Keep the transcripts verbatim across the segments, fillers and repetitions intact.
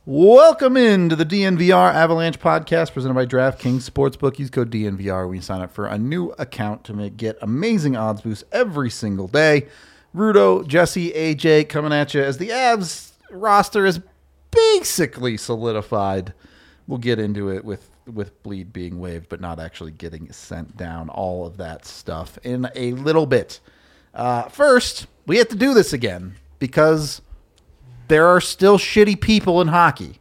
Welcome into the D N V R Avalanche podcast presented by DraftKings Sportsbook. Use code D N V R when you sign up for a new account to make, get amazing odds boosts every single day. Rudo, Jesse, A J coming at you as the Avs roster is basically solidified. We'll get into it with, with Bleed being waived, but not actually getting sent down. All of that stuff in a little bit. Uh, first, we have to do this again because there are still shitty people in hockey.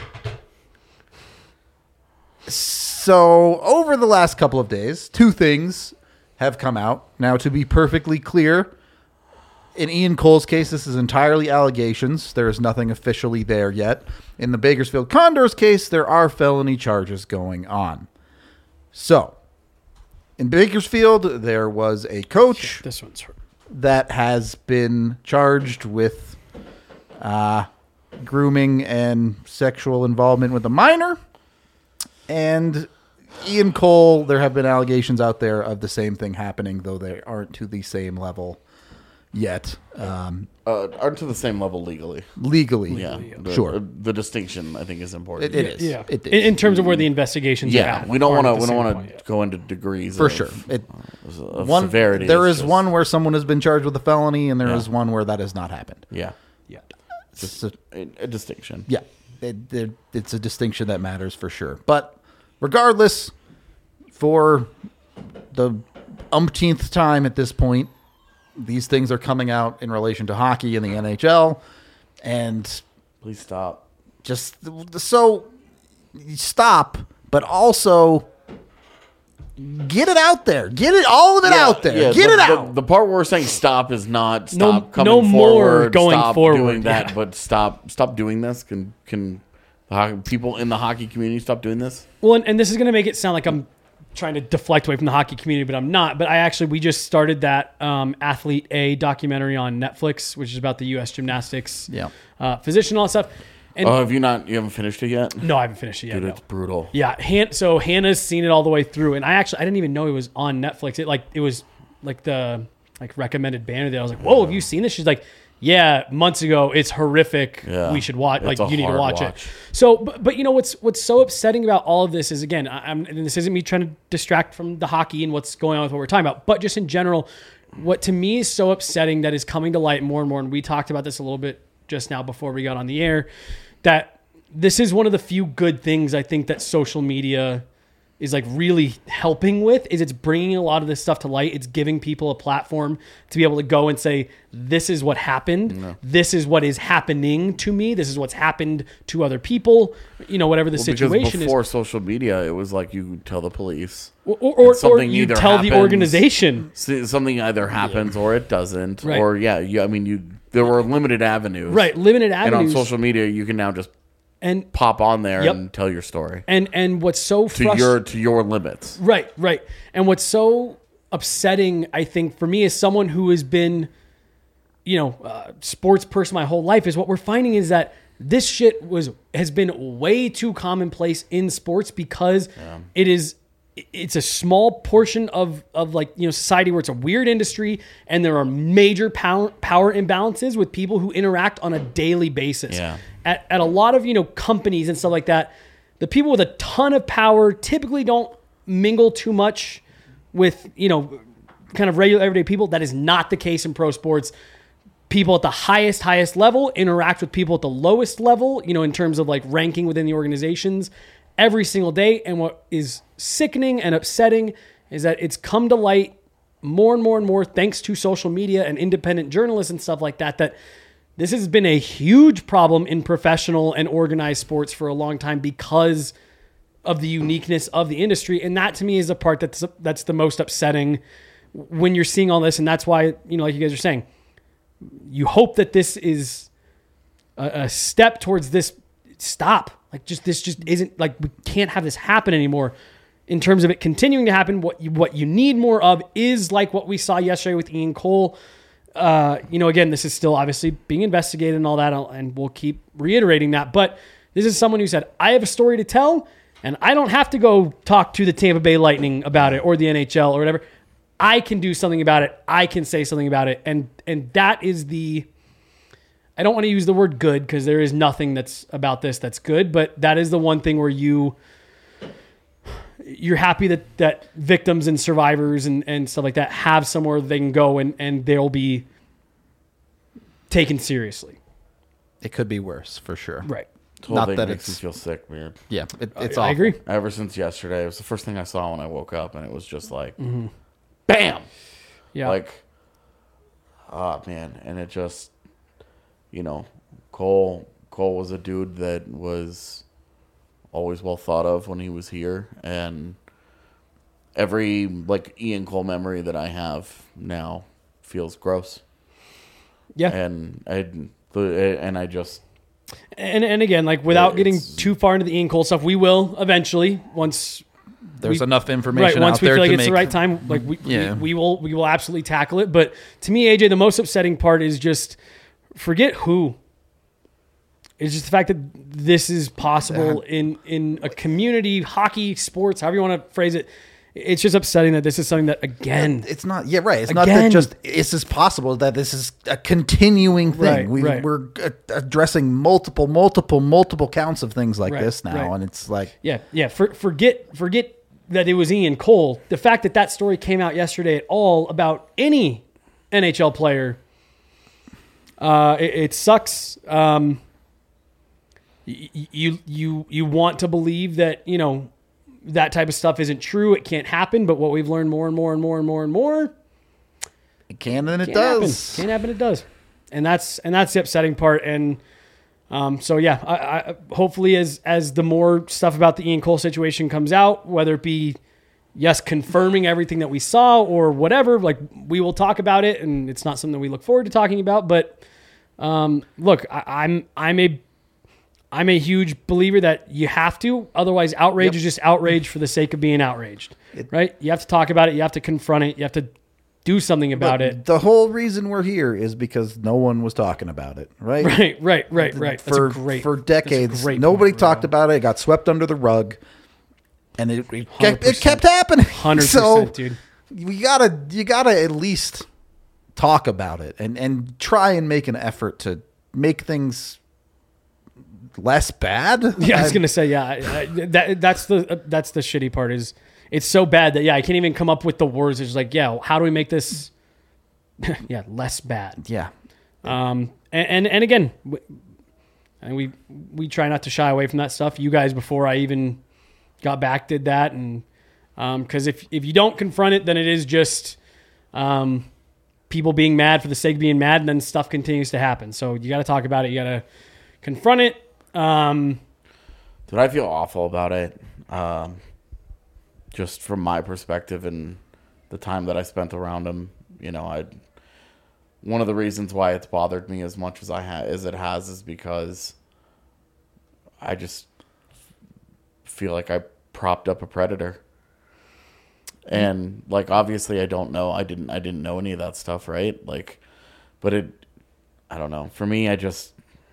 So over the last couple of days, two things have come out. Now, to be perfectly clear, in Ian Cole's case, this is entirely allegations. There is nothing officially there yet. In the Bakersfield Condors case, there are felony charges going on. So, in Bakersfield, there was a coach this one's hurt. that has been charged with uh, grooming and sexual involvement with a minor. And Ian Cole, there have been allegations out there of the same thing happening, though they aren't to the same level yet. Um, uh, aren't to the same level legally. legally, Yeah, the, sure. The distinction, I think, is important. It, it is. Yeah, It is. in, in terms of where the investigations are Yeah, at. we don't want to. aren't We at the don't same want point to go into degrees For of, sure. It, uh, of one, severity. there It's is just- one where someone has been charged with a felony, and there is Yeah. one where that has not happened. Yeah, yet. just So- a, a distinction. Yeah, it, it, it's a distinction that matters for sure. But regardless, for the umpteenth time at this point, these things are coming out in relation to hockey and the N H L. And Please stop. just so stop, but also get it out there. Get it, all of it out there. Yeah, get the, it the- out. The, part where we're saying stop is not No- stop coming no more forward, going stop forward, doing that, yeah. but stop stop doing this. Can can the hockey, people in the hockey community stop doing this? Well, and, and this is going to make it sound like I'm trying to deflect away from the hockey community, but I'm not. But I actually, we just started that um, Athlete A documentary on Netflix, which is about the U S gymnastics Yeah. uh, physician and all that stuff. And Oh, have you not? You haven't finished it yet? no, I haven't finished it yet. Dude, no. it's brutal. Yeah, Han- so Hannah's seen it all the way through, and I actually I didn't even know it was on Netflix. It like it was like the like recommended banner there. I was like, "Whoa, have you seen this?" She's like, "Yeah, months ago. It's horrific. Yeah. We should watch. It's Like a you need to hard watch, watch. it." So, but, but you know what's what's so upsetting about all of this is again, I, I'm and this isn't me trying to distract from the hockey and what's going on with what we're talking about, but just in general, what to me is so upsetting that is coming to light more and more. And we talked about this a little bit just now before we got on the air, that this is one of the few good things I think that social media is like really helping with is it's bringing a lot of this stuff to light. It's giving people a platform to be able to go and say, this is what happened. No. This is what is happening to me. This is what's happened to other people, you know, whatever the Well, situation because before is. social media, it was like you tell the police. Or, or, or, or something you either tell the happens- organization. See, something either happens or it doesn't, Right. or yeah, you, I mean, you. There were limited avenues, Right. Limited And avenues. on social media, you can now just and, pop on there Yep. and tell your story and, and what's so to frustrating. your to your limits. Right, right. And what's so upsetting, I think, for me as someone who has been, you know, uh, sports person my whole life, is what we're finding is that this shit was has been way too commonplace in sports because it is it's a small portion of of like, you know, society where it's a weird industry and there are major power power imbalances with people who interact on a daily basis. Yeah. At at a lot of, you know, companies and stuff like that, the people with a ton of power typically don't mingle too much with, you know, kind of regular everyday people. That is not the case in pro sports. People at the highest, highest level interact with people at the lowest level, you know, in terms of like ranking within the organizations every single day. And what is sickening and upsetting is that it's come to light more and more and more thanks to social media and independent journalists and stuff like that, that this has been a huge problem in professional and organized sports for a long time because of the uniqueness of the industry. And that to me is the part that's that's the most upsetting when you're seeing all this. And that's why, you know, like you guys are saying, you hope that this is a, a step towards this stop. Like just this just isn't like we can't have this happen anymore. In terms of it continuing to happen, what you, what you need more of is like what we saw yesterday with Ian Cole. Uh, you know, again, this is still obviously being investigated and all that, and we'll keep reiterating that. But this is someone who said, I have a story to tell, and I don't have to go talk to the Tampa Bay Lightning about it or the N H L or whatever. I can do something about it. I can say something about it. And and that is the, I don't want to use the word good because there is nothing that's about this that's good, but that is the one thing where you you're happy that, that victims and survivors and, and stuff like that have somewhere they can go and, and they'll be taken seriously. It could be worse for sure. Right. The whole Not thing that makes me it's- feel sick, man. Yeah, it, it's I awful. agree. Ever since yesterday, it was the first thing I saw when I woke up, and it was just like, Mm-hmm. bam! Yeah. Like, oh, man. And it just, you know, Cole, Cole was a dude that was always well thought of when he was here, and every, like, Ian Cole memory that I have now feels gross. yeah. And I, and I just... And and again, like without getting It's- too far into the Ian Cole stuff, we will eventually once There's we- enough information right once out we there feel like to it's make. the right time. Like we, Yeah. we we will we will absolutely tackle it. But to me, A J, the most upsetting part is just forget who. It's just the fact that this is possible in in a community, hockey, sports, however you want to phrase it. It's just upsetting that this is something that again. It's not. Yeah, right. It's not that Again. just this is possible. That this is a continuing thing. Right, we, right. We're uh, addressing multiple, multiple, multiple counts of things like Right, this now, right. and it's like Yeah, yeah. For, forget, forget that it was Ian Cole. The fact that that story came out yesterday at all about any N H L player, uh, it, it sucks. Um, y- y- you you you want to believe that you know that type of stuff isn't true. It can't happen. But what we've learned more and more and more and more and more, it can and it can't does. happen. Can't happen. It does, and that's and that's the upsetting part. And Um, so yeah, I, I, hopefully as as the more stuff about the Ian Cole situation comes out, whether it be yes confirming everything that we saw or whatever, like we will talk about it, and it's not something that we look forward to talking about. But um, look, I, I'm I'm a I'm a huge believer that you have to, otherwise outrage Yep. is just outrage for the sake of being outraged, It- right? You have to talk about it, you have to confront it, you have to do something about But it. The whole reason we're here is because no one was talking about it, right? Right, right, right, right. That's For a great for that's a decades, great nobody point, talked Ronaldo. about it. It got swept under the rug, and it it, kept, it one hundred percent. kept happening. one hundred So percent, dude. we gotta you gotta at least talk about it and and try and make an effort to make things less bad. Yeah, I was gonna say, yeah, I- I- that that's the uh, that's the shitty part is it's so bad that yeah, I can't even come up with the words. It's like, yeah, how do we make this, yeah, less bad? Yeah. Um, and and, and again, we, and we we try not to shy away from that stuff. You guys, before I even got back, did that, and because if if you don't confront it, then it is just um, people being mad for the sake of being mad, and then stuff continues to happen. So you got to talk about it. You got to confront it. Um, Dude, I feel awful about it. Um, just from my perspective and the time that I spent around him, you know, I. One of the reasons why it's bothered me as much as I ha- as it has is because I just feel like I propped up a predator. And like obviously I don't know. I didn't I didn't know any of that stuff, right? Like but it I don't know. For me I just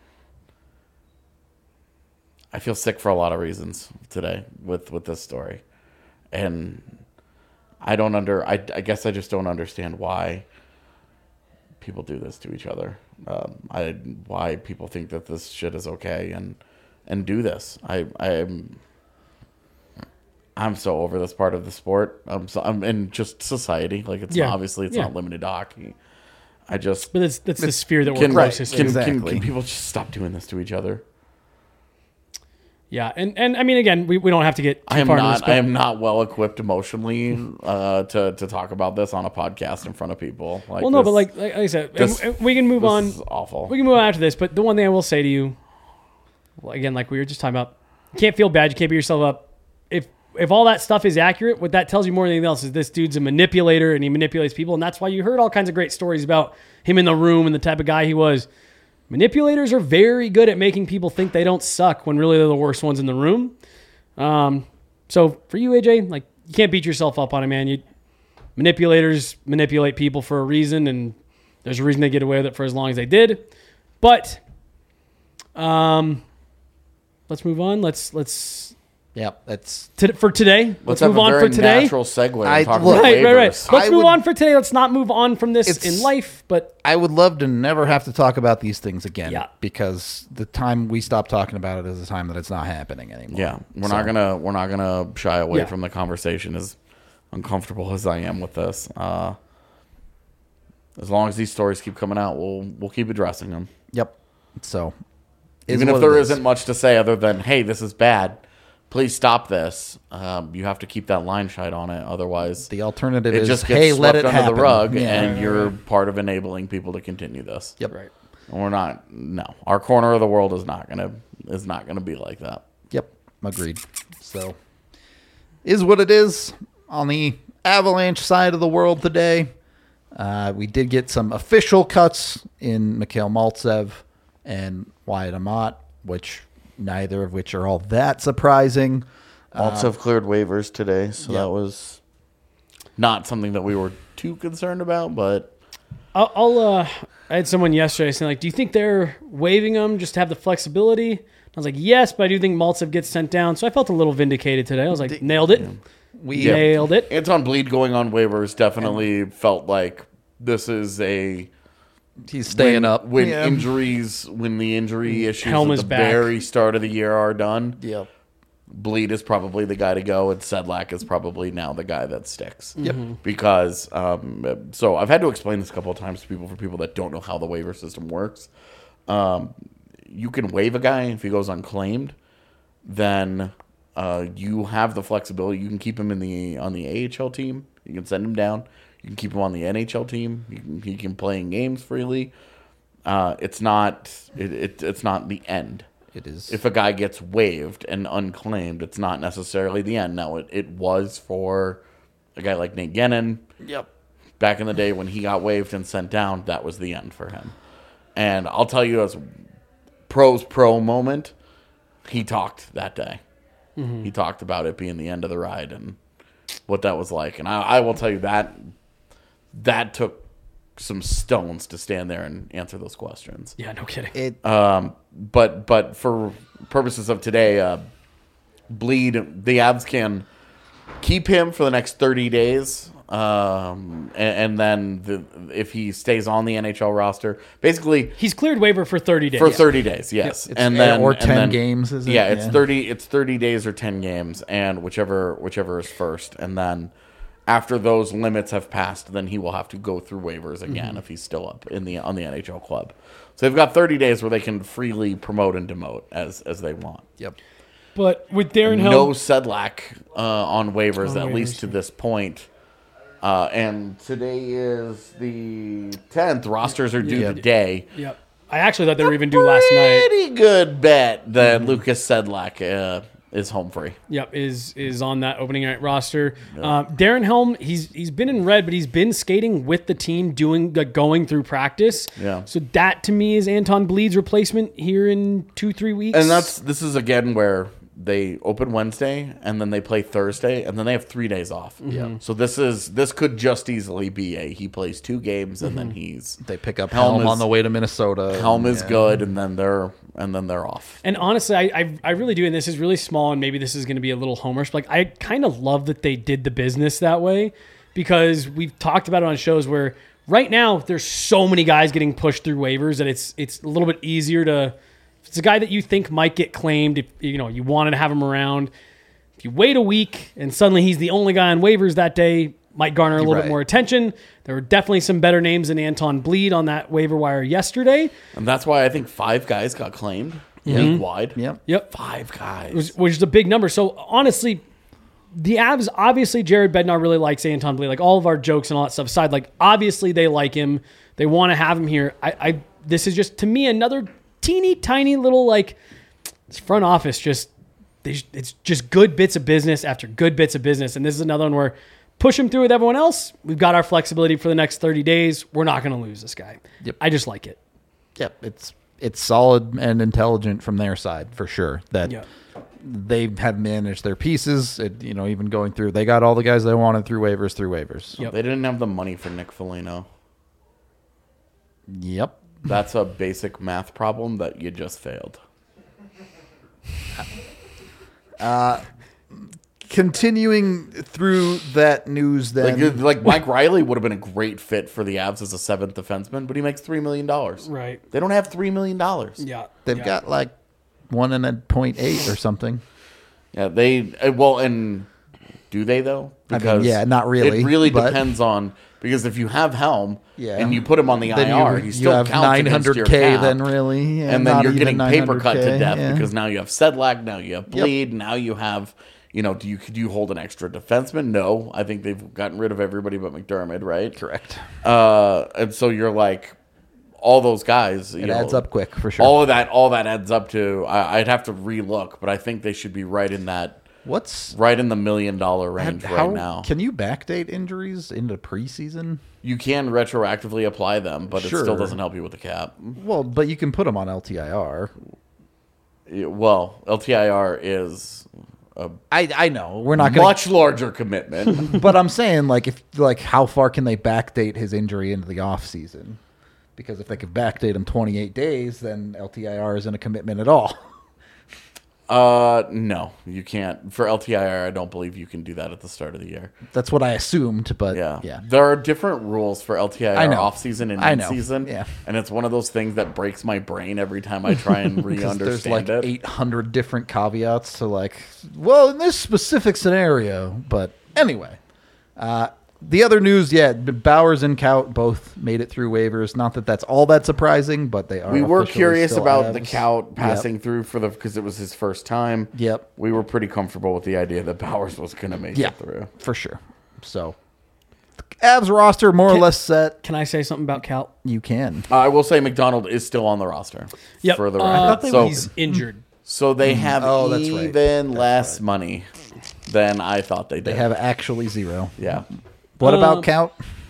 I feel sick for a lot of reasons today with, with this story. And I don't under I, I guess I just don't understand why people do this to each other. Um, I why people think that this shit is okay and and do this. I I'm I'm so over this part of the sport. I'm so I'm in just society. Like it's Yeah. not, obviously it's Yeah. not limited to hockey. I just but that's that's the sphere that we're can, closest can, to. can, Exactly. can people just stop doing this to each other? Yeah, and, and I mean, again, we, we don't have to get too I am far into this, not. but I am not well equipped emotionally uh, to to talk about this on a podcast in front of people. Like well, no, this, but like, like I said, and- this- and we can move this on. is awful. We can move on after this, but the one thing I will say to you, well, again, like we were just talking about, you can't feel bad. You can't beat yourself up. If if all that stuff is accurate, what that tells you more than anything else is this dude's a manipulator and he manipulates people, and that's why you heard all kinds of great stories about him in the room and the type of guy he was. Manipulators are very good at making people think they don't suck when really they're the worst ones in the room. Um, so for you, A J, like you can't beat yourself up on it, man. You manipulators manipulate people for a reason, and there's a reason they get away with it for as long as they did. But um, let's move on. Let's let's Yep, that's To, for today, let's, Let's have move a on very for today. natural segue. And I- talk look- about Right, right, right. waivers. Let's I move would- on for today. Let's not move on from this It's- in life, but I would love to never have to talk about these things again. Yeah. Because the time we stop talking about it is the time that it's not happening anymore. Yeah, we're So, not gonna we're not gonna shy away Yeah. from the conversation. As uncomfortable as I am with this, uh, as long as these stories keep coming out, we'll we'll keep addressing them. Yep. So is Even what if there it is. isn't much to say other than, "Hey, this is bad. Please stop this." Um, you have to keep that line shine on it, otherwise the alternative it is just gets hey, swept let it under happen. the rug, Yeah. and you're part of enabling people to continue this. Yep. right. And we're not. No, our corner of the world is not gonna is not gonna be like that. Yep. Agreed. So is what it is on the Avalanche side of the world today. Uh, we did get some official cuts in Mikhail Maltsev and Wyatt Amat, which neither of which are all that surprising. Also have cleared waivers today, so yeah. that was not something that we were too concerned about. But I'll, I'll uh, I had someone yesterday saying, like, do you think they're waiving them just to have the flexibility? I was like, yes, but I do think Maltsev gets sent down. So I felt a little vindicated today. I was like, nailed it. We Nailed it. Anton Bleed going on waivers definitely felt like this is a he's staying when, up. when Yeah. injuries when the injury issues Helm at is the back. very start of the year are done. Yep. Bleed is probably the guy to go, and Sedlak is probably now the guy that sticks. Yep. Because, um, so I've had to explain this a couple of times to people, for people that don't know how the waiver system works. Um, you can waive a guy if he goes unclaimed, then uh, you have the flexibility. You can keep him in the on the A H L team. You can send him down. You can keep him on the N H L team. You can, he can play in games freely. Uh, it's not it, it it's not the end. It is. If a guy gets waived and unclaimed, it's not necessarily the end. Now, it, it was for a guy like Nate Gennon. Yep. Back in the day when he got waived and sent down, that was the end for him. And I'll tell you, as pro's pro moment, he talked that day. Mm-hmm. He talked about it being the end of the ride and what that was like. And I, I will tell you that that took some stones to stand there and answer those questions. Yeah, no kidding. It. Um, but but for purposes of today, uh, Bleed, the Avs can keep him for the next thirty days. Um, and, and then the, if he stays on the N H L roster, basically He's cleared waiver for thirty days. for thirty days, yes, It's- and then or and ten then- games, is it? Yeah, it's Yeah. thirty. It's thirty days or ten games, and whichever whichever is first, and then after those limits have passed, then he will have to go through waivers again Mm-hmm. if he's still up in the on the N H L club. So they've got thirty days where they can freely promote and demote as as they want. Yep. But with Darren Helm, No Sedlak uh, on waivers, On at waivers, least to this point. Uh, and today is the tenth. Rosters are due Yeah. today. Yep. I actually thought they were even due last night. Pretty good bet that Mm-hmm. Lucas Sedlak uh, is home free. Yep, is is on that opening night roster. Um, Darren Helm, he's he's been in red, but he's been skating with the team, doing like, going through practice. Yeah. So that to me is Anton Bleed's replacement here in two three weeks. And that's this is again where they open Wednesday and then they play Thursday and then they have three days off. Yeah. So this is this could just easily be a he plays two games and then he's They pick up Helm Helm, is- on the way to Minnesota. Helm is Yeah. good and then they're and then they're off. And honestly, I, I I really do, and this is really small, and maybe this is going to be a little homerish. But like, I kind of love that they did the business that way, because we've talked about it on shows where right now there's so many guys getting pushed through waivers that it's it's a little bit easier to. If it's a guy that you think might get claimed, if you know you wanted to have him around. If you wait a week and suddenly he's the only guy on waivers that day, might garner a little Right. bit more attention. There were definitely some better names than Anton Bleed on that waiver wire yesterday. And that's why I think five guys got claimed league wide. Yep. Yep. Five guys. which, which is a big number. So honestly, the Avs, obviously Jared Bednar really likes Anton Bleed. Like all of our jokes and all that stuff aside, like obviously they like him. They want to have him here. I, I this is just to me another teeny tiny little like this front office just they, it's just good bits of business after good bits of business. And this is another one where push him through with everyone else. We've got our flexibility for the next thirty days. We're not going to lose this guy. Yep. I just like it. Yep. It's it's solid and intelligent from their side for sure. That Yeah. they have managed their pieces. It, you know, even going through, they got all the guys they wanted through waivers, through waivers. Yep. They didn't have the money for Nick Foligno. Yep. That's a basic math problem that you just failed. continuing through that news, then Like, like Mike Riley would have been a great fit for the Avs as a seventh defenseman, but he makes three million dollars. Right. They don't have three million dollars. Yeah. they've yeah. got like one and a point eight or something. Yeah, they uh, well, and do they though? I mean, yeah, not really, It really but- depends on because if you have Helm Yeah. and you put him on the Then I R, you, he you still have counts nine against hundred your K cap. then really, yeah, and then not you're even getting paper cut to 900K, death yeah. because now you have Sedlak, now you have Bleed, now you have, you know, do you could you hold an extra defenseman? No, I think they've gotten rid of everybody but McDermott, right? Correct. Uh, and so you're like, all those guys, you It know, adds up quick for sure. All of that, all that adds up to. I, I'd have to relook, but I think they should be right in that, What's right in the million dollar range how, right now. Can you backdate injuries into preseason? You can retroactively apply them, but Sure. it still doesn't help you with the cap. Well, but you can put them on L T I R. Yeah, Well, L T I R is a I I know we're not going much larger commitment. but I'm saying like if like how far can they backdate his injury into the off season? Because if they could backdate him twenty-eight days, then L T I R isn't a commitment at all. uh, no, you can't. For L T I R, I don't believe you can do that at the start of the year. That's what I assumed, but Yeah. yeah. There are different rules for L T I R I know. off season and I in know. season. Yeah. And it's one of those things that breaks my brain every time I try and 'Cause re-understand there's like it. eight hundred different caveats to like, well, in this specific scenario. But anyway, uh, the other news, yeah, Bowers and Kaut both made it through waivers. Not that that's all that surprising, but they are. We were officially curious still about the Avs. Kaut Yep. passing through for the because it was his first time. Yep. We were pretty comfortable with the idea that Bowers was going to make Yeah, it through. for sure. So, the Avs roster more or Can- less set. Can I say something about Cal? You can. Uh, I will say McDonald is still on the roster. Yep. For the Uh, record. I thought so, he's injured. so they have Oh, that's right. even That's less right. money than I thought they did. They have actually zero. Yeah. What Um, about Count?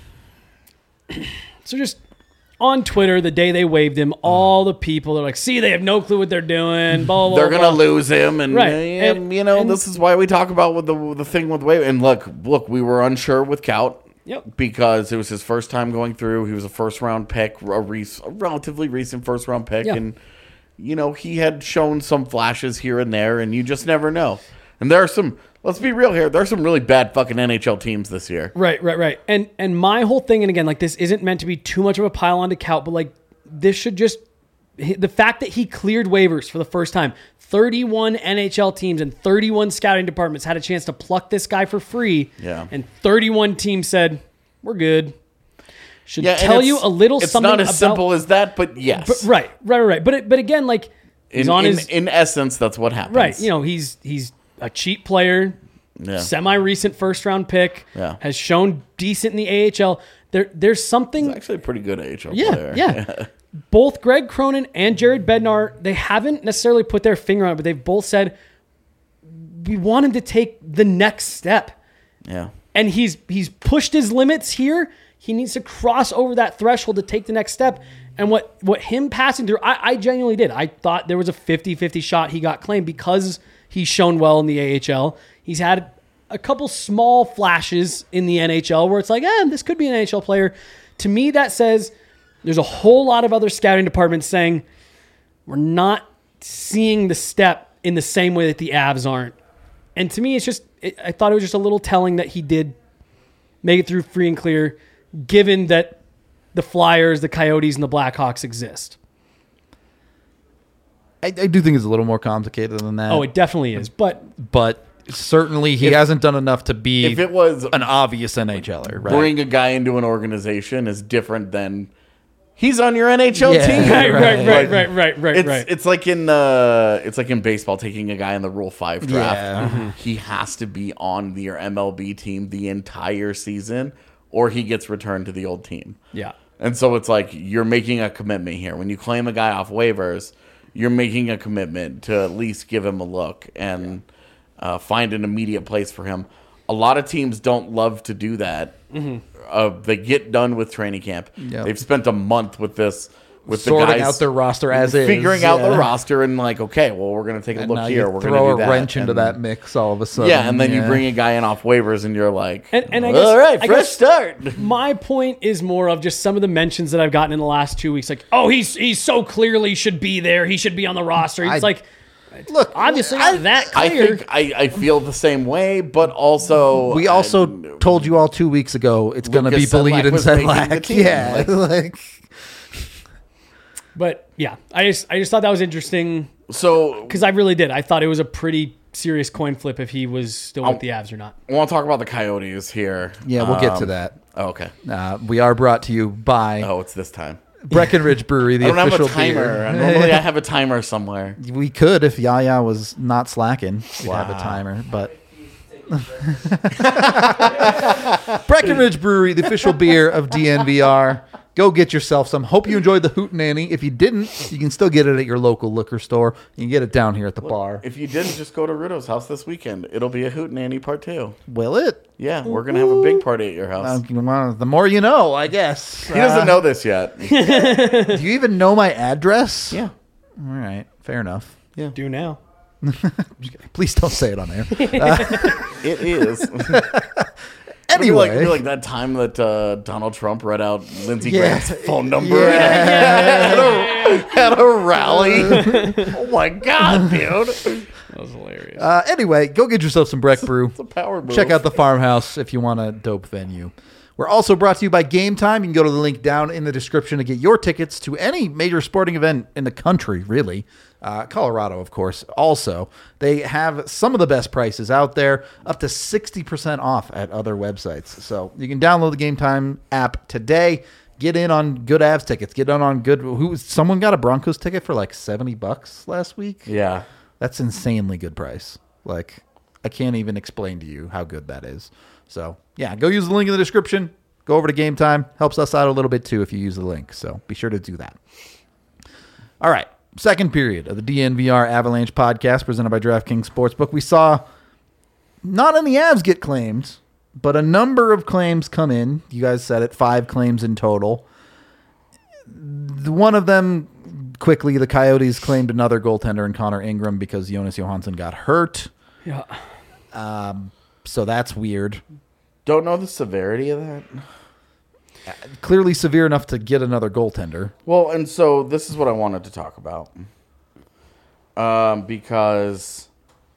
So just on Twitter, the day they waived him, all the people are like, "See, they have no clue what they're doing." Blah blah. They're blah. gonna lose him, and, Right. and, And- you know and- this is why we talk about with the the thing with Wave. And look, look, we were unsure with Kaut. Yep. Because it was his first time going through. He was a first round pick, a, rec- a relatively recent first round pick, Yeah. and you know he had shown some flashes here and there, and you just never know. And there are some. Let's be real here. There are some really bad fucking N H L teams this year. Right, right, right. And and my whole thing, and again, like this isn't meant to be too much of a pile on to Kaut, but like this should just the fact that he cleared waivers for the first time. thirty-one N H L teams and thirty-one scouting departments had a chance to pluck this guy for free. Yeah. And thirty-one teams said, "We're good." Should Yeah, and tell it's- you a little It's something not as about, simple as that, but yes. But, right, right, right. But it, but again, like he's in, on in, his in essence, that's what happens. right. You know, he's he's a cheap player. Yeah. Semi-recent first-round pick, Yeah. has shown decent in the A H L. There, there's something. He's actually a pretty good A H L Yeah, player. yeah. Both Greg Cronin and Jared Bednar, they haven't necessarily put their finger on it, but they've both said we want him to take the next step. Yeah. And he's he's pushed his limits here. He needs to cross over that threshold to take the next step. And what, what him passing through, I, I genuinely did. I thought there was a fifty-fifty shot he got claimed because he's shown well in the A H L. He's had a couple small flashes in the N H L where it's like, eh, this could be an N H L player. To me, that says there's a whole lot of other scouting departments saying we're not seeing the step in the same way that the Avs aren't. And to me, it's just, it, I thought it was just a little telling that he did make it through free and clear, given that the Flyers, the Coyotes, and the Blackhawks exist. I, I do think it's a little more complicated than that. Oh, it definitely is. But but certainly he If- hasn't done enough to be If it was an obvious N H L er, right? bring a guy into an organization is different than he's on your N H L Yeah. team. right, right, right, Like, right, right, right, It's right. it's like in uh it's like in baseball taking a guy in the Rule Five draft. Yeah. Mhm. He has to be on your M L B team the entire season, or he gets returned to the old team. Yeah. And so it's like you're making a commitment here. When you claim a guy off waivers, you're making a commitment to at least give him a look and uh, find an immediate place for him. A lot of teams don't love to do that. Mm-hmm. Uh, they get done with training camp. Yep. They've spent a month with this, with Sorting the guys out their roster as is, figuring out the yeah. roster, and like, okay, well, we're going to take a And look now here. you We're throw going to a do that. wrench into and, that mix all of a sudden. Yeah, and then you yeah. bring a guy in off waivers, and you're like, And- and I guess- all right, I fresh guess- start. My point is more of just some of the mentions that I've gotten in the last two weeks. Like, oh, he's he's so clearly should be there. He should be on the roster. It's I- like, Look, obviously I- not that I clear. think I, I feel the same way, but also We also I, told you all two weeks ago it's going to be Lucas Sedlak Bullied and was making the Sedlak. team. Yeah, Like- like But yeah, I just I just thought that was interesting so because I really did. I thought it was a pretty serious coin flip if he was still with I'll- the Avs or not. I want to talk about the Coyotes here. yeah, we'll get to Um, that. oh, okay. Uh, we are brought to you by Oh, it's this time. Breckenridge Brewery, the I don't have official a timer. beer. Normally, I have a timer somewhere. We could if Yaya was not slacking. We'd have a Wow. timer, but Breckenridge Brewery, the official beer of D N V R. Go get yourself some. Hope you enjoyed the Hootenanny. If you didn't, you can still get it at your local liquor store. You can get it down here at the bar. If you didn't, just go to Rudo's house this weekend. It'll be a hootenanny part two. Will it? Yeah, we're gonna have a big party at your house. Uh, well, the more you know, I guess. he doesn't know this yet. Do you even know my address? yeah, All right. Fair enough. Do now. Please don't say it on air. it is. Anyway. Like, like that time that uh, Donald Trump read out Lindsey Yeah. Graham's phone number Yeah. at, a, at a rally. Oh my god, dude! That was hilarious. Uh, anyway, go get yourself some Breck Brew. It's a power move. Check out the farmhouse if you want a dope venue. We're also brought to you by Game Time. You can go to the link down in the description to get your tickets to any major sporting event in the country, really. Uh, Colorado, of course, also. They have some of the best prices out there, up to sixty percent off at other websites. So you can download the Game Time app today. Get in on good Avs tickets. Get in on good... Who? Someone got a Broncos ticket for like seventy bucks last week? Yeah. That's insanely good price. Like, I can't even explain to you how good that is. So, yeah, go use the link in the description. Go over to Game Time. Helps us out a little bit, too, if you use the link. So, be sure to do that. All right. Second period of the D N V R Avalanche podcast presented by DraftKings Sportsbook. We saw not any Avs get claimed, but a number of claims come in. You guys said it, five claims in total. The- One of them, quickly, the Coyotes claimed another goaltender in Connor Ingram because Jonas Johansson got hurt. Yeah. So that's weird. Don't know the severity of that. Clearly severe enough to get another goaltender. Well, and so this is what I wanted to talk about. Um, because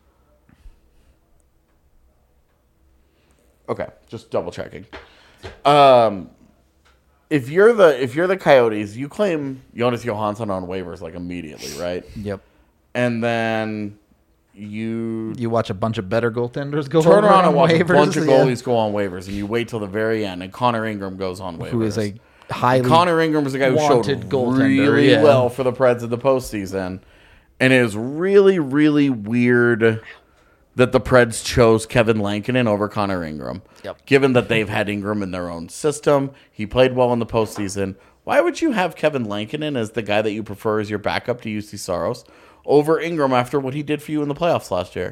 okay, just double checking. Um, if you're the if you're the Coyotes, you claim Jonas Johansson on waivers like immediately, right? Yep. And then you You watch a bunch of better goaltenders go turn over around on and watch waivers, a bunch of yeah. goalies go on waivers, and you wait till the very end, and Connor Ingram goes on waivers. Who is a highly Connor Ingram is a guy who showed wanted goaltender, really yeah. well for the Preds in the postseason, and it is really, really weird that the Preds chose Kevin Lankinen over Connor Ingram. Yep. Given that they've had Ingram in their own system, he played well in the postseason. Why would you have Kevin Lankinen as the guy that you prefer as your backup to U C Saros over Ingram after what he did for you in the playoffs last year?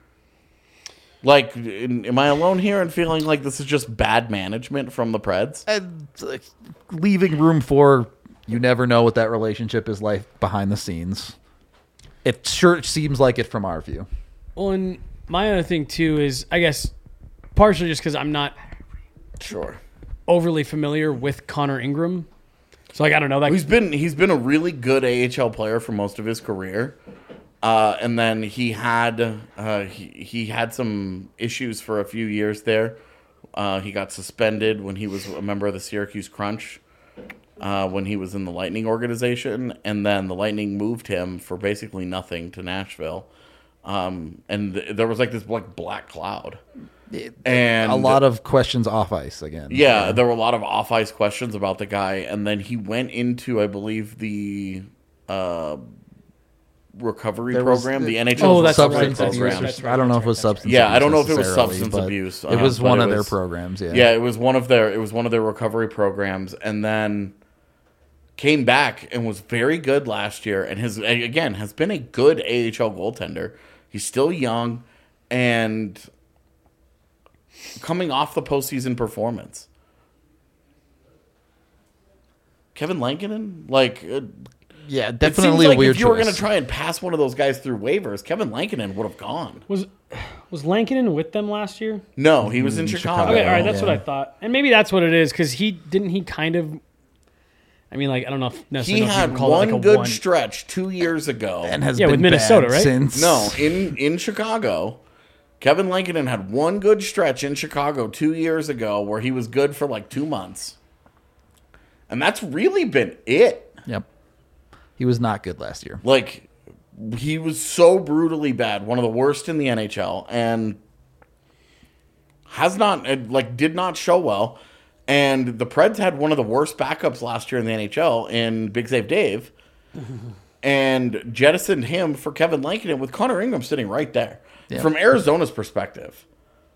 Like, in, am I alone here in feeling like this is just bad management from the Preds? and like, leaving room for you never know what that relationship is like behind the scenes. It sure seems like it from our view. Well, and my other thing too is, I guess, partially just because I'm not Sure. overly familiar with Connor Ingram, so like I don't know that. He's been he's been a really good A H L player for most of his career, uh, and then he had uh, he he had some issues for a few years there. Uh, he got suspended when he was a member of the Syracuse Crunch, uh, when he was in the Lightning organization, and then the Lightning moved him for basically nothing to Nashville, um, and th- there was like this like black cloud. And a lot of questions off ice again. Yeah, there were a lot of off ice questions about the guy, and then he went into, I believe, the uh, recovery There was program, the- the N H L Oh, that's recovery substance right, abuse. program. or- That's right, I don't know that's if it was right, substance. Yeah, abuse I don't know if it was necessarily, substance but abuse, It uh, was but one it of their was- programs. Yeah. Yeah, it was one of their it was one of their recovery programs, and then came back and was very good last year, and his again has been a good A H L goaltender. He's still young, and coming off the postseason performance. Kevin Lankinen, like, uh, Yeah, it definitely seems like a weird if you were choice. going to try and pass one of those guys through waivers, Kevin Lankinen would have gone. was was Lankinen with them last year? No, he was in Mm, Chicago. Chicago. Okay, all right, that's yeah. what I thought, and maybe that's what it is because he didn't he kind of I mean, like I don't know if He necessarily know if you had can call one it like a good one. stretch two years ago. And has Yeah, been with Minnesota, bad right? since. No, in, in Chicago, Kevin Lankinen had one good stretch in Chicago two years ago where he was good for like two months. And that's really been it. Yep. He was not good last year. Like, he was so brutally bad, one of the worst in the N H L, and has not, like, did not show well. And the Preds had one of the worst backups last year in the N H L in Big Save Dave, and jettisoned him for Kevin Lankinen with Connor Ingram sitting right there. Yeah. From Arizona's perspective,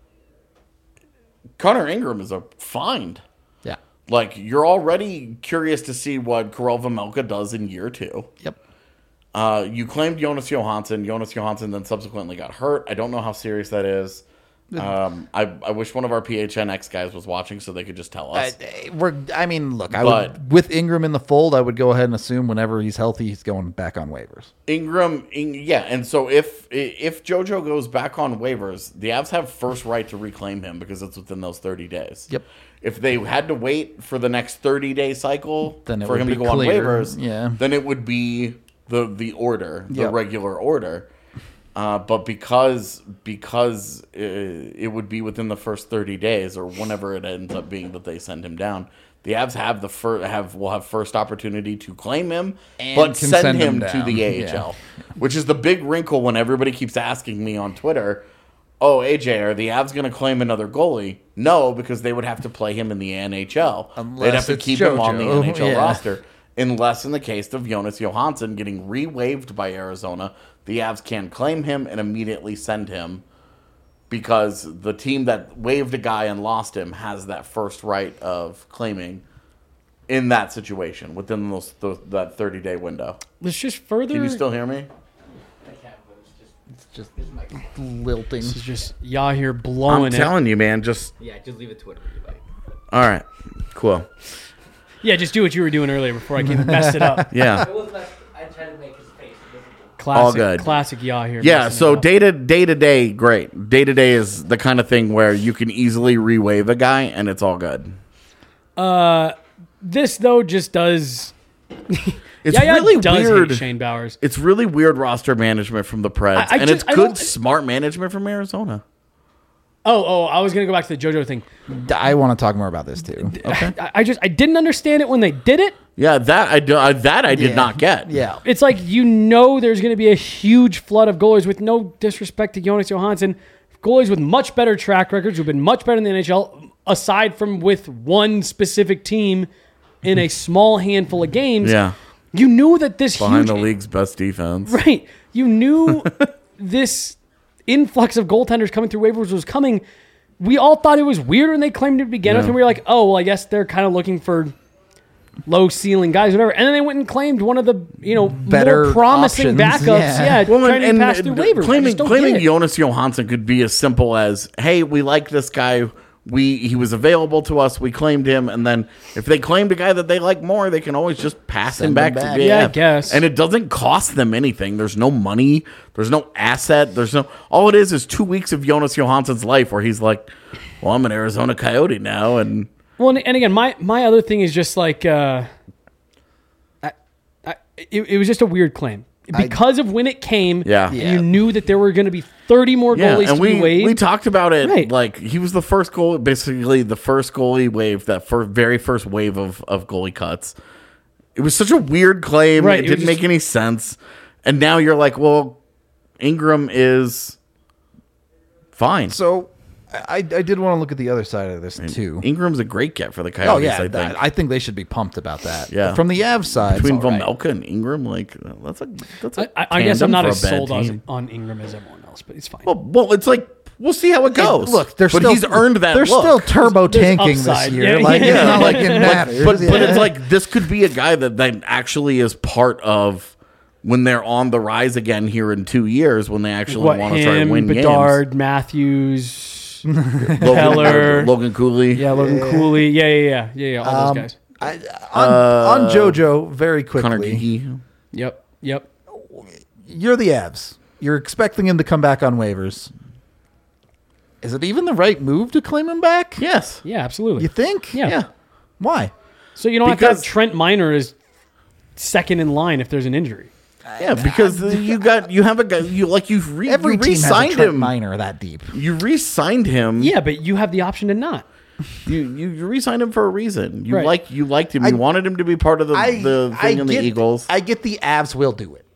Connor Ingram is a find. Yeah. Like, you're already curious to see what Karel Vejmelka does in year two. Yep. Uh, you claimed Jonas Johansson. Jonas Johansson then subsequently got hurt. I don't know how serious that is. Um, I, I wish one of our P H N X guys was watching so they could just tell us. I, we're, I mean, look, I But- would, with Ingram in the fold, I would go ahead and assume whenever he's healthy, he's going back on waivers. Ingram, In, yeah, and so if if JoJo goes back on waivers, the Avs have first right to reclaim him because it's within those thirty days. Yep. If they had to wait for the next thirty-day cycle Then it for would him to be go clear, on waivers, yeah. then it would be the the order, the Yep. regular order. Uh, but because because uh, it would be within the first thirty days or whenever it ends up being that they send him down, the Avs have the fir- have will have first opportunity to claim him, And but can send, send him, him to down. the A H L, which is the big wrinkle when everybody keeps asking me on Twitter, "Oh, A J, are the Avs going to claim another goalie?" No, because they would have to play him in the N H L. Unless They'd have to it's keep him on the JoJo. N H L Yeah. roster. Unless in the case of Jonas Johansson getting re-waived by Arizona, the Avs can claim him and immediately send him because the team that waived a guy and lost him has that first right of claiming in that situation within those, those that thirty-day window. Let's just further. Can you still hear me? It's just lilting. This is just y'all here blowing I'm it. telling you, man. Just Yeah, just leave it Twitter. You like. all right, cool. Yeah, just do what you were doing earlier before I came and messed it up. Yeah. It wasn't that I tried to make his face. It wasn't Classic, All good. classic y'all here. Yeah, messing so it up. day to day to day, great. Day to day is the kind of thing where you can easily re-waive a guy and it's all good. This though just does. It's Yaya really does weird. hate Shane Bowers. It's really weird roster management from the Preds, I- I and just- I it's good, don't- smart management from Arizona. Oh, oh, I was gonna go back to the JoJo thing. I want to talk more about this too. Okay. I, I just I didn't understand it when they did it. Yeah, that I do, uh, that I did Yeah. not get. Yeah. It's like you know there's going to be a huge flood of goalies with no disrespect to Jonas Johansson, goalies with much better track records who've been much better in the N H L, aside from with one specific team in a small handful of games. Yeah, You knew that this behind huge the league's best defense. right. You knew this influx of goaltenders coming through waivers was coming. We all thought it was weird when they claimed it to begin with, Yeah. and we were like, "Oh, well, I guess they're kind of looking for low ceiling guys, whatever." And then they went and claimed one of the you know Better more promising options, backups. yeah. Yeah, Well, trying and, to pass and through waivers. I claiming just don't claiming get it. Jonas Johansson could be as simple as, "Hey, we like this guy. We he was available to us. We claimed him." And then if they claimed a guy that they like more, they can always just pass Send him back, him back. to B A F. Yeah, I guess. And it doesn't cost them anything. There's no money. There's no asset. There's no. All it is is two weeks of Jonas Johansson's life where he's like, "Well, I'm an Arizona Coyote now," and Well, and, and again, my my other thing is just like, uh, I, I, it, it was just a weird claim because of when it came. Yeah. Yeah. You knew that there were going to be thirty more yeah, goalies and to we be waived. we talked about it. Right. Like he was the first goal, basically the first goalie wave, that first, very first wave of of goalie cuts. It was such a weird claim. Right, It, it was didn't just- make any sense. And now you're like, well, Ingram is fine. So I, I did want to look at the other side of this too. Ingram's a great get for the Coyotes. Oh yeah, I think. that- I think they should be pumped about that. Yeah. From the Avs side, Between it's all right. Vejmelka and Ingram, like that's a that's a I, I guess I'm tandem not for as a bad sold on, team. on Ingram as everyone else, but it's fine. Well, well, it's like we'll see how it goes. Look, they're but still he's earned that. They're look. still turbo There's tanking this upside. year. Yeah, like yeah. it's not like it matters. But, but it's Yeah. like this could be a guy that, that actually is part of when they're on the rise again here in two years when they actually what want to try to him, win Bedard, Matthews, games. Logan, Heller. Logan Cooley. yeah, Logan Cooley, yeah, yeah, yeah, yeah, yeah, all Um, those guys. I, on, on JoJo, very Connor quickly, Geeky. Yep, yep. you're the Avs. You're expecting him to come back on waivers. Is it even the right move to claim him back? Yes. Yeah, absolutely. You think? Yeah. Yeah. Why? So you don't have to Because- have Trent Miner as second in line if there's an injury. Yeah, because you got you have a guy you like you've re, Every you team has a re-signed Trent him. Minor that deep. You re-signed him. Yeah, but you have the option to not. You you, you re-signed him for a reason. You Right. like you liked him. I- You wanted him to be part of the, I, the I thing in the get, Eagles. I get the Avs will do it.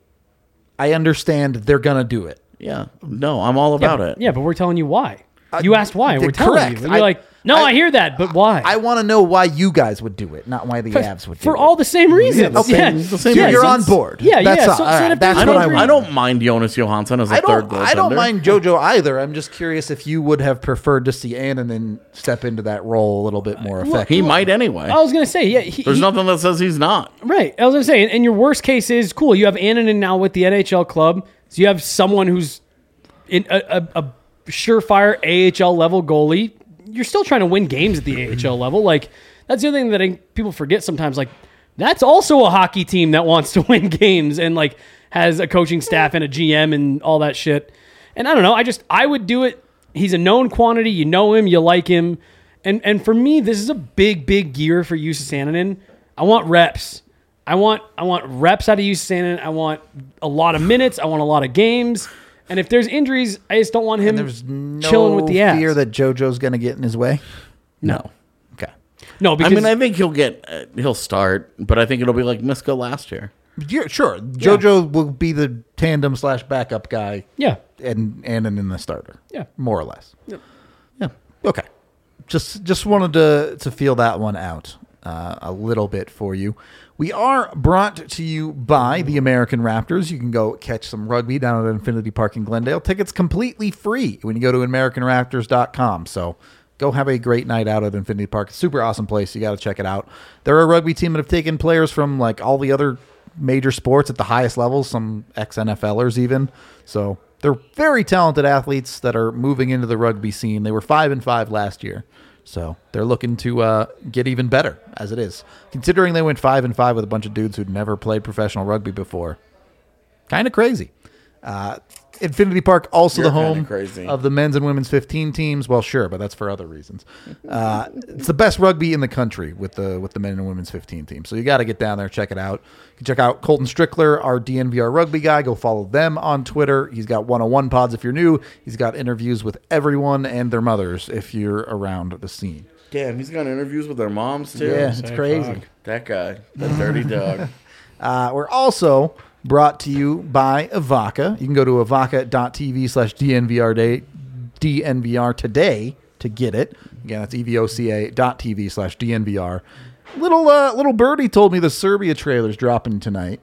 I understand they're gonna do it. yeah. No, I'm all about yeah, it. Yeah, but we're telling you why. You asked why. th- We're telling correct. you. And you're I- like, no, I- I, hear that, but why? I want to know why you guys would do it, not why the Avs would do For it. all the same reasons. the same- yeah. the same yeah, reasons. You're so on it's- board. Yeah, That's yeah. all. So, All so right, if that's there's I what no don't. I I, want. don't mind Jonas Johansson as a I third don't. goaltender. I don't mind JoJo either. I'm just curious if you would have preferred to see Annunen step into that role a little bit more effectively. He might anyway. I was gonna say, yeah. He, There's he- nothing that says he's not. Right. I was gonna say, and, and your worst case is cool. You have Annunen now with the N H L club, so you have someone who's in a, a, a surefire A H L level goalie. You're still trying to win games at the A H L level. Like that's the other thing that I, people forget sometimes. Like that's also a hockey team that wants to win games and like has a coaching staff and a G M and all that shit. And I don't know. I just I would do it. He's a known quantity. You know him. You like him. And and for me, this is a big big year for Jussi Sananen. I want reps. I want I want reps out of Jussi Sananen. I want a lot of minutes. I want a lot of games. And if there's injuries, I just don't want him There's no chilling with the ass. fear that JoJo's going to get in his way. No. Okay. No, I because mean, I think he'll get. Uh, he'll start, but I think it'll be like Miska last year. Yeah, sure. JoJo will be the tandem slash backup guy, yeah, and Annunen the starter. Yeah. more or less. Yep. Yeah. Okay. Just just wanted to to feel that one out uh, a little bit for you. We are brought to you by the American Raptors. You can go catch some rugby down at Infinity Park in Glendale. Tickets completely free when you go to American Raptors dot com. So go have a great night out at Infinity Park. Super awesome place. You got to check it out. They're a rugby team that have taken players from like all the other major sports at the highest levels, some ex-N F L ers even. So they're very talented athletes that are moving into the rugby scene. They were five and five last year. So they're looking to uh, get even better as it is. Considering they went five and five with a bunch of dudes who'd never played professional rugby before. Kind of crazy. Uh, Infinity Park, also You're the kinda home crazy. of the men's and women's fifteen teams. Well, sure, but that's for other reasons. Uh, it's the best rugby in the country with the with the men and women's fifteen teams. So you got to get down there, check it out. You can check out Colton Strickler, our D N V R rugby guy. Go follow them on Twitter. He's got one oh one pods if you're new. He's got interviews with everyone and their mothers if you're around the scene. Damn, he's got interviews with their moms too. Yeah, it's Say crazy. fuck. That guy, that dirty dog. Uh, we're also brought to you by Avaca. You can go to avaca.tv slash DNVR day, D N V R today to get it. Again, that's evoca dot tv slash DNVR. Little uh, little birdie told me the Serbia trailer's dropping tonight.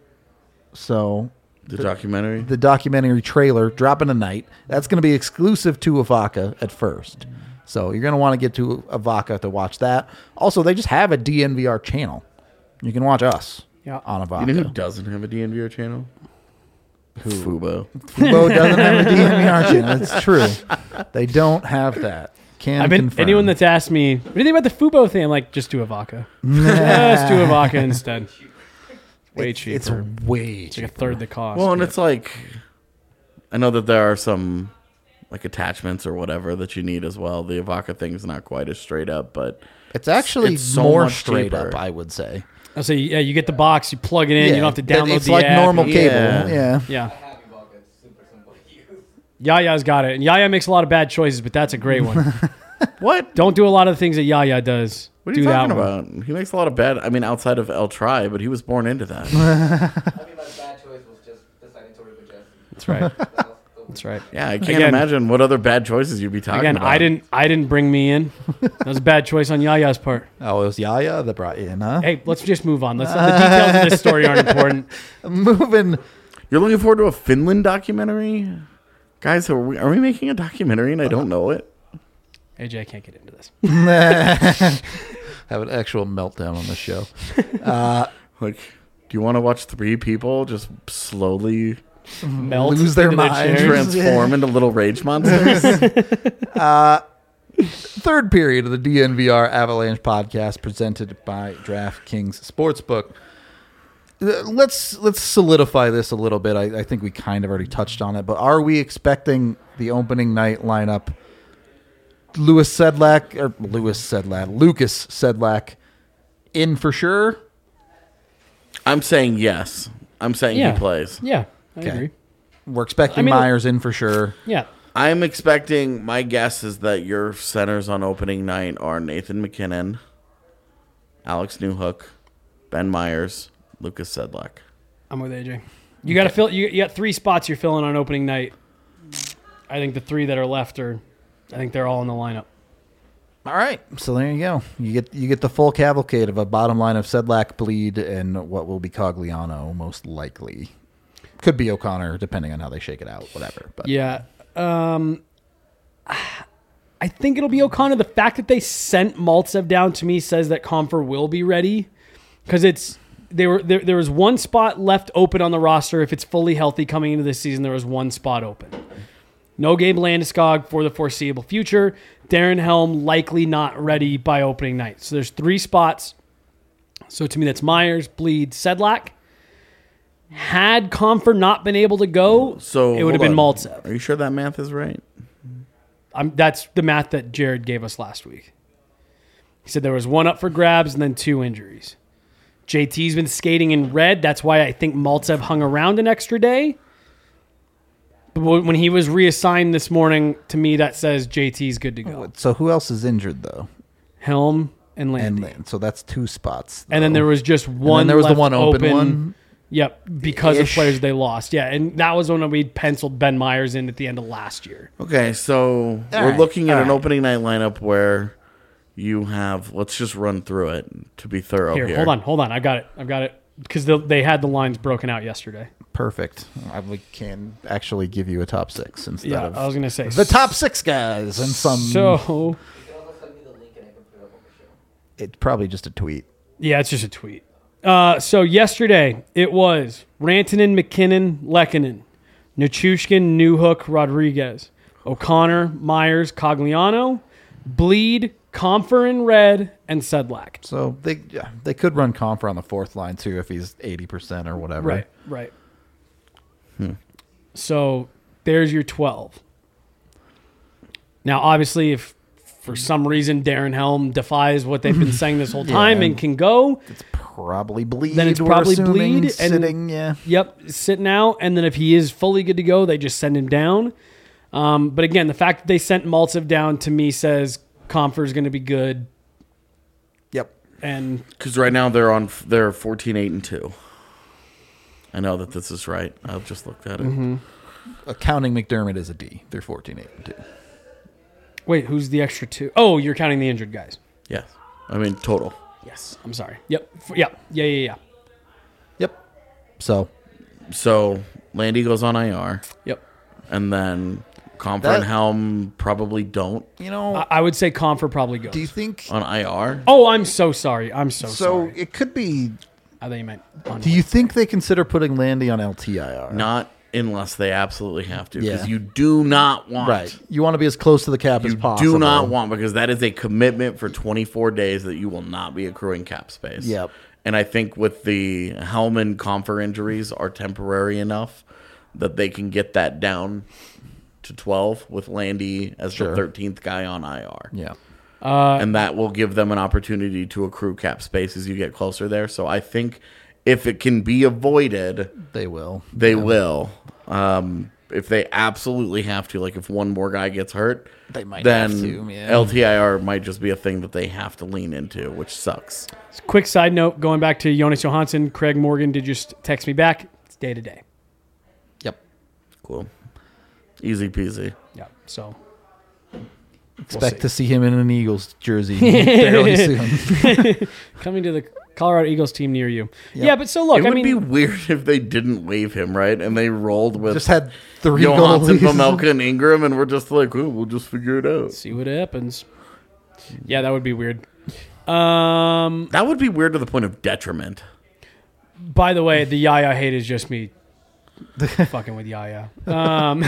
So The documentary. the documentary trailer dropping tonight. That's going to be exclusive to Avaca at first. So you're going to want to get to Avaca to watch that. Also, they just have a D N V R channel. You can watch us Yeah. on Avaca. You know who doesn't have a D N V R channel? Who? Fubo. Fubo doesn't have a D N V R channel. It's true. They don't have that. Can I've been confirm. anyone that's asked me, what do you think about the Fubo thing? I'm like, just do Avaca. just do Avaca instead. Way it's, cheaper. It's way It's like a cheaper. third the cost. Well, and it's like, I know that there are some like attachments or whatever that you need as well. The Avaca thing's not quite as straight up, but It's actually it's so more much straight cheaper. up, I would say. I'll say, yeah, you get the box, you plug it in, you don't have to that- download It's the like app. normal Yeah. cable. Yeah. Yeah. Yeah. I have Ivanka. It's super simple to use. Yaya's got it. And Yaya makes a lot of bad choices, but that's a great one. what? Don't do a lot of the things that Yaya does. What are do you talking that one. about? He makes a lot of bad. I mean, outside of El Tri, but he was born into that. I mean, my bad choice was just deciding to work with Jesse. That's right. That was the- That's right. Yeah, I can't Again- imagine what other bad choices you'd be talking Again, about. I didn't I didn't bring me in. That was a bad choice on Yaya's part. Oh, it was Yaya that brought you in, huh? Hey, let's just move on. Let's the details of this story aren't important. Moving. You're looking forward to a Finland documentary, guys. Are we are we making a documentary and I don't know it? A J, I can't get into this. Have an actual meltdown on the show. Like, do you want to watch three people just slowly Melt Lose their into the minds. chairs. transform into little rage monsters? Third period of the D N V R Avalanche podcast presented by DraftKings Sportsbook. Uh, Let's let's solidify this a little bit. I, I think we kind of already touched on it, but are we expecting the opening night lineup? Lewis Sedlak or Lewis Sedlak, Lucas Sedlak in for sure. I'm saying yes. I'm saying Yeah. he plays. Yeah, I Okay. agree. We're expecting I mean- Myers in for sure. Yeah. I'm expecting, my guess is that your centers on opening night are Nathan McKinnon, Alex Newhook, Ben Myers, Lucas Sedlak. I'm with A J. You got to fill. You, you got three spots you're filling on opening night. I think the three that are left are, I think they're all in the lineup. All right, so there you go. You get you get the full cavalcade of a bottom line of Sedlak, Bleed, and what will be Cogliano most likely. Could be O'Connor, depending on how they shake it out. Whatever. But Yeah. Um, I think it'll be O'Connor. The fact that they sent Maltsev down to me says that Comfer will be ready because it's they were there. There was one spot left open on the roster. If it's fully healthy coming into this season, there was one spot open. No Gabe Landeskog for the foreseeable future. Darren Helm likely not ready by opening night. So there's three spots. So to me, that's Myers, Bleed, Sedlak. Had Comfer not been able to go, So it would have hold been on. Maltsev. Are you sure that math is right? I'm, that's the math that Jared gave us last week. He said there was one up for grabs and then two injuries. J T's been skating in red. That's why I think Maltsev hung around an extra day. But when he was reassigned this morning, to me, that says J T's good to go. so who else is injured though? Helm and Landy. And so that's two spots. And then though. there was just And one then there was the left one open, one. Yep, because Ish. of players they lost. Yeah, and that was when we penciled Ben Myers in at the end of last year. Okay, so All we're right, looking at all an right. opening night lineup where you have, let's just run through it to be thorough here. Here, hold on, hold on. I've got it. I've got it. Because they had the lines broken out yesterday. Perfect. I we can actually give you a top six instead Yeah, of I was going to say. the top six guys and some. So, You can also send me the link and I can put it up on the show. It's probably just a tweet. yeah, it's just a tweet. Uh, so yesterday, it was Rantanen, McKinnon, Lehkonen, Nichushkin, Newhook, Rodriguez, O'Connor, Myers, Cogliano, Bleed, Comfer in red, and Sedlak. So they yeah, they could run Comfer on the fourth line too if he's eighty percent or whatever. Right, right. So there's your twelve. Now, obviously, if for some reason Darren Helm defies what they've been saying this whole time Yeah. and can go, It's probably Bleed. Then it's we're probably assuming, Bleed, and- sitting. Yeah. yep, sitting out. And then if he is fully good to go, they just send him down. Um, but again, the fact that they sent Maltsev down to me says Comfer is going to be good. Yep. And Because right now they're on, they're fourteen, eight, and two. I know that this is right. I've just looked at it. Mm-hmm. Accounting McDermott is a D. They're fourteen, eight, and two. wait, who's the extra two? Oh, you're counting the injured guys. Yes. I mean, total. Yes, I'm sorry. Yep. F- Yeah. Yeah. Yeah. Yeah. Yep. So So Landy goes on I R, Yep. and then Comfer That- and Helm probably don't you know, I, I would say Comfer probably goes. do you think? on I R. Oh, I'm so sorry. I'm so, So sorry. it could be. I thought you meant. On Do you think they consider putting Landy on L T I R? Not unless they absolutely have to, because Yeah. you do not want. Right. You want to be as close to the cap as You possible. do not want, because that is a commitment for twenty-four days that you will not be accruing cap space. Yep. And I think with the Helm and Comfer injuries are temporary enough that they can get that down to twelve with Landy as Sure. the thirteenth guy on I R. Yeah. And that will give them an opportunity to accrue cap space as you get closer there. So I think if it can be avoided, They will. they will. Um, if they absolutely have to, like if one more guy gets hurt, They might then have to, yeah. L T I R might just be a thing that they have to lean into, which sucks. Quick side note: going back to Jonas Johansson, Craig Morgan did just text me back. It's day to day. Yep. Cool. Easy peasy. Yeah. So Expect see. to see him in an Eagles jersey fairly soon. coming to the Colorado Eagles team near you. Yeah, but so look, it I would mean, be weird if they didn't waive him, right? And they rolled with Just had three Johansson, goalies. Pamelka, and Ingram, and we're just like, oh, we'll just figure it out. see what happens. Yeah, that would be weird. Um. That would be weird to the point of detriment. By the way, the Yaya hate is just me fucking with Yaya. Um.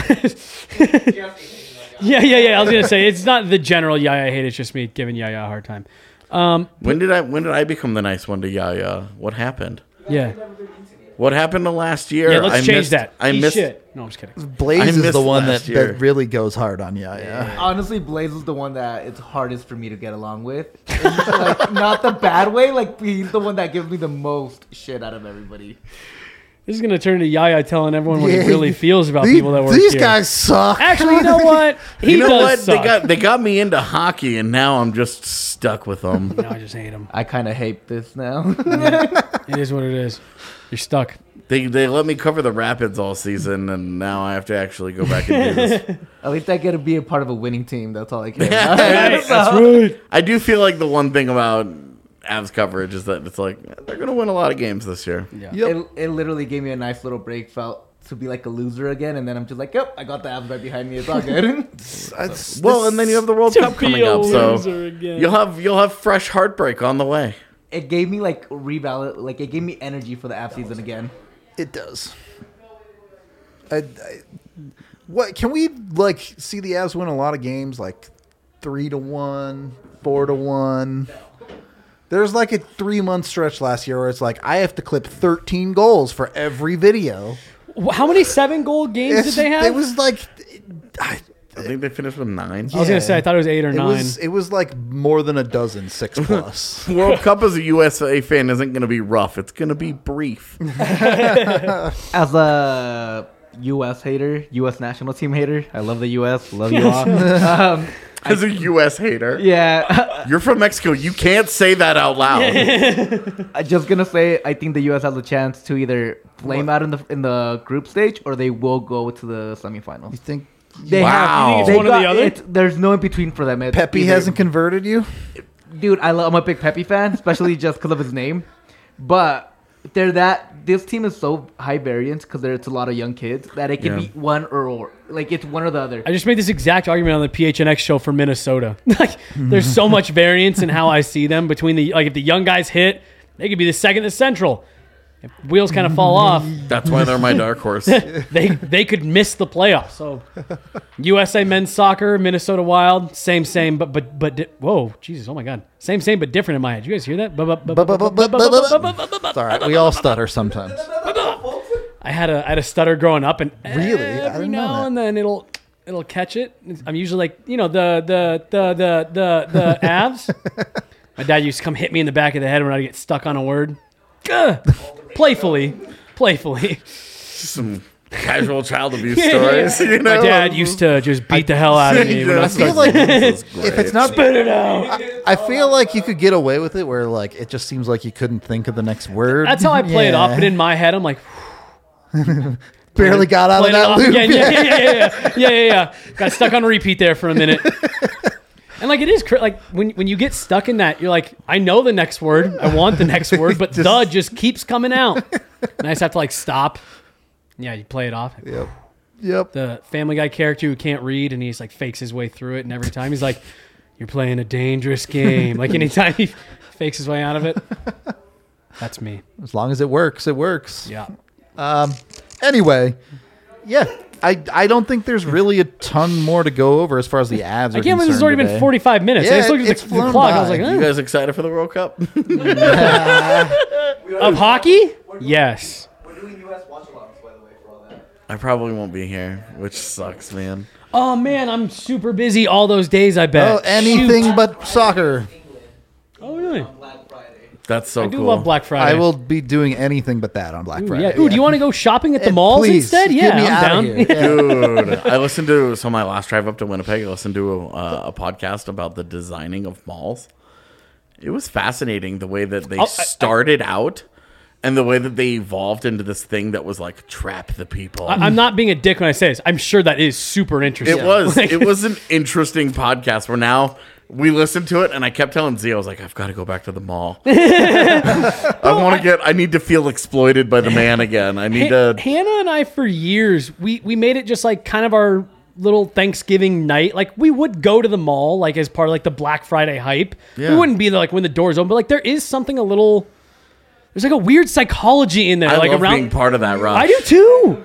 yeah, yeah, yeah. I was gonna say it's not the general Yaya hate. It's just me giving Yaya a hard time. Um. When did I when did I become the nice one to Yaya? What happened? Yeah. What happened to last year? Yeah, let's I change missed, that. I Eat missed. shit. No, I'm just kidding. Blaze I is missed the one last that, year. that really goes hard on you. Yeah. Honestly, Blaze is the one that it's hardest for me to get along with. And, like, not the bad way. Like, he's the one that gives me the most shit out of everybody. This is gonna turn to Yaya telling everyone what Yeah. he really feels about These, people that work these here. guys suck. Actually, you know what? He You know does what? suck. They got they got me into hockey, and now I'm just stuck with them. No, I just hate him. I kind of hate this now. It is what it is. You're stuck. They they let me cover the Rapids all season, and now I have to actually go back and do this. At least I get to be a part of a winning team. That's all I care Yeah. about. Right, that's right. I do feel like the one thing about Avs coverage is that it's like they're going to win a lot of games this year. Yeah. Yep. It, it literally gave me a nice little break. Felt to be like a loser again, and then I'm just like, yep, I got the Avs right behind me. It's all good. It's- Well, this- and then you have the World To Cup be coming a up, so loser again. you'll have you'll have fresh heartbreak on the way. It gave me like revalid, like it gave me energy for the Avs season again. It does. I, I, what can we like see the Avs win a lot of games like three to one, four to one? There's like a three month stretch last year where it's like I have to clip thirteen goals for every video. How many seven goal games It's- did they have? It was like I, I think they finished with nine. I was gonna say I thought it was eight or it nine. was it was like more than a dozen, six plus. World Cup as a U S A fan isn't going to be rough. It's going to be brief. As a U S hater, U S national team hater, I love the U S. Love you all. um, As a U S hater, yeah, you're from Mexico. You can't say that out loud. I'm just gonna say I think the U S has a chance to either flame out in the in the group stage or they will go to the semifinals. You think They Wow. have. You think it's they one or the other? it's- There's no in between for them. It's Pepe either- hasn't converted you? Dude, I love, I'm a big Pepe fan, especially just because of his name. But they're that this team is so high variance because there's a lot of young kids that it can Yeah. be one or, or like it's one or the other. I just made this exact argument on the P H N X show for Minnesota. Like, there's so much variance in how I see them between the like if the young guys hit, they could be the second in the Central. If wheels kind of fall off, That's why they're my dark horse. they they could miss the playoffs. So, U S A men's soccer, Minnesota Wild, same same, but but but di- whoa, Jesus, oh my God, same same but different in my head. You guys hear that? It's all right. We all stutter sometimes. I had a I had a stutter growing up, and Really? I every didn't know now that. and then it'll it'll catch it. I'm usually like you know the the the the the the Avs. My dad used to come hit me in the back of the head when I get stuck on a word. Gah! Playfully, playfully. Some casual child abuse stories. You know? My dad used to just beat the hell out of me when I I started. feel like This is if it's great. not spit it out, I feel like you could get away with it where like it just seems like you couldn't think of the next word. That's how I play it off. Yeah. But in my head, I'm like, barely got out of playing it that off loop. again. Yeah, yeah, yeah, yeah, yeah, yeah, yeah. Got stuck on repeat there for a minute. And like it is cr- like when when you get stuck in that, you're like, I know the next word, I want the next word, but the just keeps coming out. And I just have to like stop. Yeah, you play it off. Yep. Yep. The Family Guy character who can't read and he's like fakes his way through it, and every time he's like, "You're playing a dangerous game." Like anytime he fakes his way out of it, that's me. As long as it works, it works. Yeah. Um. Anyway, yeah. I, I don't think there's really a ton more to go over as far as the Avs are I can't believe this has concerned already been today. forty-five minutes. Yeah, I just looked it's at the, the flown clock. I was by. like, You eh. guys excited for the World Cup? Of hockey? Yes. We're doing U S watch-alongs, by the way, for all that. I probably won't be here, which sucks, man. Oh man, I'm super busy all those days. I bet. Oh, anything Shoot. but soccer. Oh really? Black Friday. That's so I do cool. love Black Friday. I will be doing anything but that on Black Ooh, Friday. yeah. Ooh, do you want to go shopping at the Eh, malls please, instead? get Yeah, me I'm outta down. here. Dude, I listened to so my last drive up to Winnipeg. I listened to a, uh, a podcast about the designing of malls. It was fascinating the way that they Oh, I- I- started out and the way that they evolved into this thing that was like trap the people. I, I'm not being a dick when I say this. I'm sure that is super interesting. it was Like, it was an interesting podcast where now we listened to it and I kept telling Z, I was like, I've got to go back to the mall. I want to get I need to feel exploited by the man again. I need Ha- to Hannah and I, for years, we we made it just like kind of our little Thanksgiving night. Like we would go to the mall, like as part of like the Black Friday hype. Yeah. We wouldn't be there like when the doors open, but like there is something a little. There's like a weird psychology in there, I like love around. being part of that rush. I do too.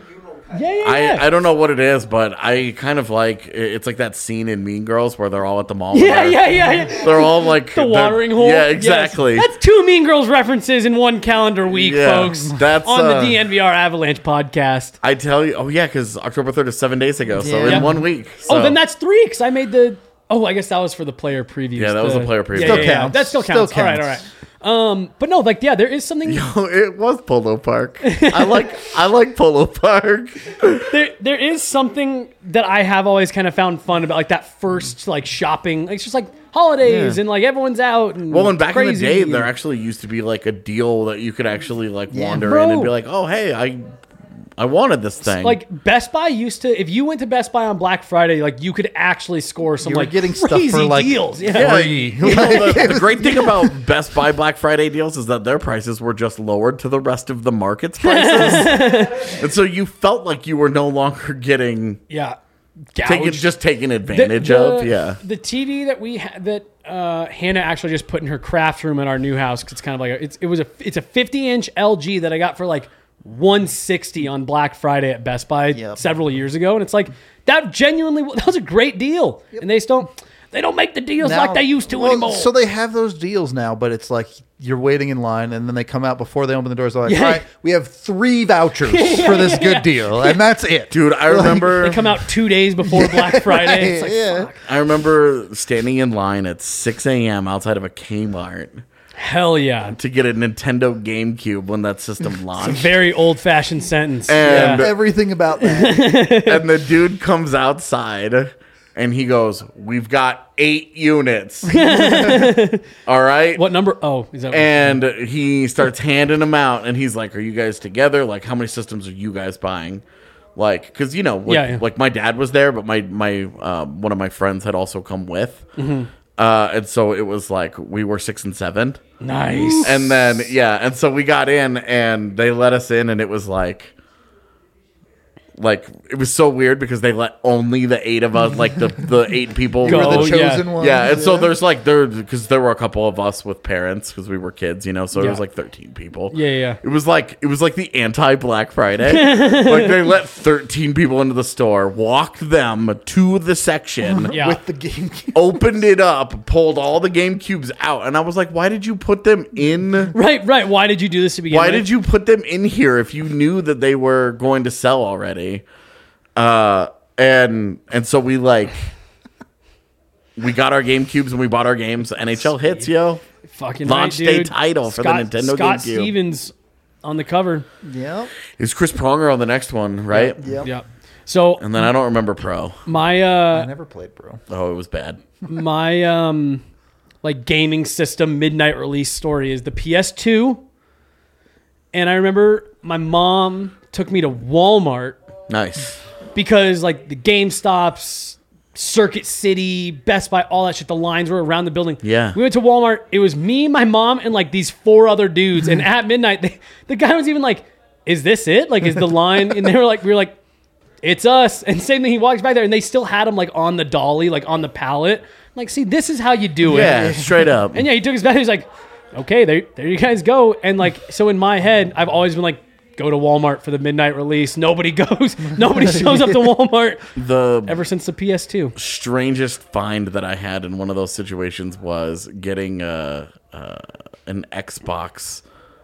Yeah, yeah, yeah. I, I don't know what it is, but I kind of like it's like that scene in Mean Girls where they're all at the mall. yeah, they're, yeah, yeah, yeah. They're all like The they're- watering hole. Yeah, Yes. exactly. That's two Mean Girls references in one calendar week, Yeah, folks. that's, on uh, the D N V R Avalanche podcast. I tell you, oh yeah, because October third is seven days ago, so Yeah. in one week. So. Oh, then that's three because I made the. Oh, I guess that was for the player previews. Yeah, that was the the player preview. Yeah, Still yeah, yeah. counts. That still Still counts. All right, all counts. right. Um, but no, like yeah, there is something. Oh, it was Polo Park. I like I like Polo Park. There, there is something that I have always kind of found fun about, like that first like shopping. Like, it's just like holidays Yeah. and like everyone's out. And Well, and back in the crazy day, and- there actually used to be like a deal that you could actually like Yeah, wander bro. in and be like, "Oh, hey, I I wanted this thing." Like Best Buy used to, if you went to Best Buy on Black Friday, like you could actually score some You were like getting stuff crazy for, like, deals. Yeah. Yeah, free. you know, the, the great thing about Best Buy Black Friday deals is that their prices were just lowered to the rest of the market's prices, and so you felt like you were no longer getting yeah. taken, Gouged. just taken The- advantage the- of. Yeah, The T V that we ha- that uh, Hannah actually just put in her craft room in our new house, 'cause it's kind of like a, it's it was a it's a fifty inch L G that I got for like one sixty on Black Friday at Best Buy Yep. several years ago, and it's like that genuinely that was a great deal, and they just don't they don't make the deals Now- like they used to well, anymore. So they have those deals now, but it's like you're waiting in line, and then they come out before they open the doors. They're like, Yeah. "All right, we have three vouchers for this good deal, and that's it." dude, I remember. they come out two days before Black Friday. It's like, yeah. I remember standing in line at six a.m. outside of a Kmart hell yeah, to get a Nintendo GameCube when that system launched. very old fashioned sentence. And- yeah. Everything about that. And the dude comes outside and he goes, "We've got eight units." All right. What number? Oh, is that? And he starts handing them out and he's like, "Are you guys together? Like, how many systems are you guys buying?" Like, because, you know, like, Yeah, yeah. like my dad was there, but my, my uh, one of my friends had also come with. Mm-hmm. Uh, and so it was like we were six and seven. nice. And then, yeah, and so we got in and they let us in and it was like, like, it was so weird because they let only the eight of us, like the, the eight people. Go. We're the Oh, yeah. chosen ones. Yeah, and so there's like, there, because there were a couple of us with parents because we were kids, you know, so it Yeah. was like thirteen people. Yeah, yeah. It was like, it was like the anti Black Friday. Like they let thirteen people into the store, walked them to the section. Yeah. with the game. Opened it up, pulled all the GameCubes out, and I was like, "Why did you put them in? Right, right. Why did you do this to begin Why with? did you put them in here if you knew that they were going to sell already?" Uh, and and so we like we got our GameCubes and we bought our games. N H L hits, yo. Fucking Launch right, day dude. title for the Scott, Nintendo Scott GameCube. Stevens on the cover. Yep. Is Chris Pronger on the next one, right? Yep. Yeah. So And then I don't remember Pro. my I uh never played, bro. Oh, it was bad. my um like gaming system midnight release story is the P S two. And I remember my mom took me to Walmart Nice. because like the GameStops, Circuit City, Best Buy, all that shit, the lines were around the building. Yeah. We went to Walmart. It was me, my mom, and like these four other dudes. And at midnight, they, the guy was even like, "Is this it? Like, is the line?" And they were like, "We were like, it's us." And same thing. He walks back there, and they still had him like on the dolly, like on the pallet. I'm like, see, this is how you do it. Yeah, straight up. And yeah, he took his back. He was like, "Okay, there, there you guys go." And like, so in my head, I've always been like, go to Walmart for the midnight release. Nobody goes. Nobody shows up to Walmart The ever since the P S two. strangest find that I had in one of those situations was getting a, uh, an Xbox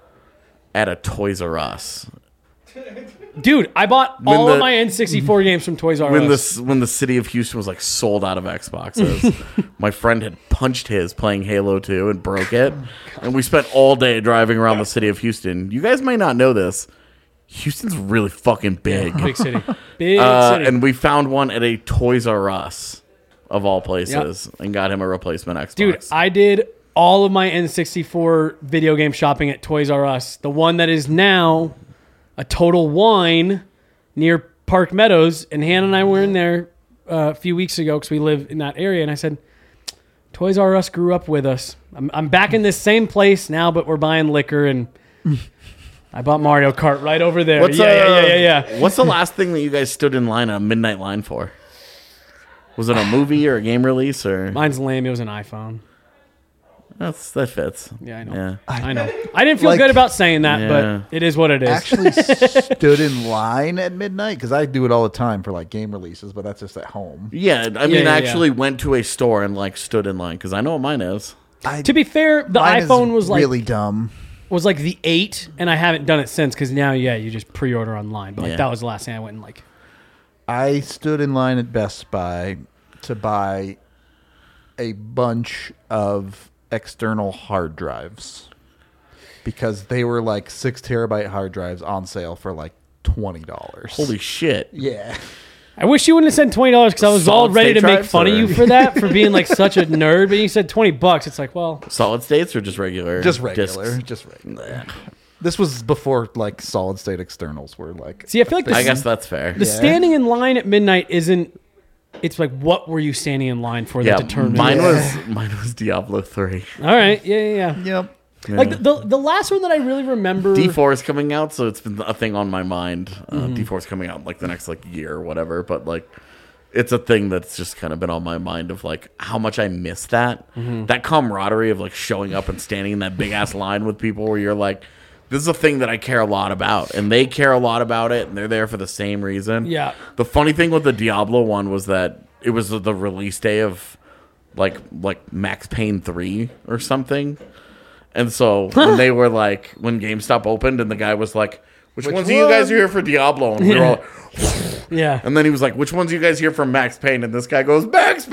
at a Toys R Us. Dude, I bought When all the- of my N sixty-four games from Toys R When Us. the when the city of Houston was like sold out of Xboxes, my friend had punched his playing Halo two and broke it, and we spent all day driving around the city of Houston. You guys might not know this. Houston's really fucking big. Big city. Big Uh, city. and we found one at a Toys R Us, of all places, and got him a replacement Xbox. Dude, I did all of my N sixty-four video game shopping at Toys R Us. The one that is now a Total Wine near Park Meadows. And Hannah and I were in there uh, a few weeks ago because we live in that area. And I said, Toys R Us grew up with us. I'm, I'm back in this same place now, but we're buying liquor. And I bought Mario Kart right over there. What's yeah, uh, yeah, yeah, yeah, yeah. What's the last thing that you guys stood in line, a midnight line for? Was it a movie or a game release or? Mine's lame. It was an iPhone. That's that fits. Yeah, I know. Yeah. I know. I didn't feel Like- good about saying that, Yeah. but it is what it is. Actually stood in line at midnight because I do it all the time for like game releases, but that's just at home. Yeah, I mean, yeah, yeah. actually went to a store and like stood in line because I know what mine is. I, To be fair, the mine is iPhone was like really dumb. was like the eight, and I haven't done it since because now, yeah, you just pre-order online. But like Yeah. that was the last thing I went and like. I stood in line at Best Buy to buy a bunch of external hard drives because they were like six terabyte hard drives on sale for like twenty dollars. Holy shit! Yeah. I wish you wouldn't have said twenty dollars because I was all Solid ready state to make drives, fun of or- you for that for being like such a nerd. But you said twenty bucks. It's like, well, Solid states or just regular? Just regular. discs? Just regular. This was before like solid state externals were like. see, I feel like the, I guess that's fair. the standing in line at midnight isn't. It's like, what were you standing in line for Yeah, that determined? mine Yeah. was mine was Diablo three. All right, yeah, yeah, yeah. Yep. Like the, the the last one that I really remember. D four is coming out, so it's been a thing on my mind. Uh, Mm-hmm. D four is coming out in, like the next like year or whatever, but like it's a thing that's just kind of been on my mind of like how much I miss that Mm-hmm. that camaraderie of like showing up and standing in that big ass line with people where you're like, this is a thing that I care a lot about, and they care a lot about it, and they're there for the same reason. Yeah. The funny thing with the Diablo one was that it was the release day of like like Max Payne three or something. And so when they were like, when GameStop opened and the guy was like, which, ones of you guys are here for Diablo? And we were all, Yeah. and then he was like, which ones of you guys here for Max Payne? And this guy goes, Max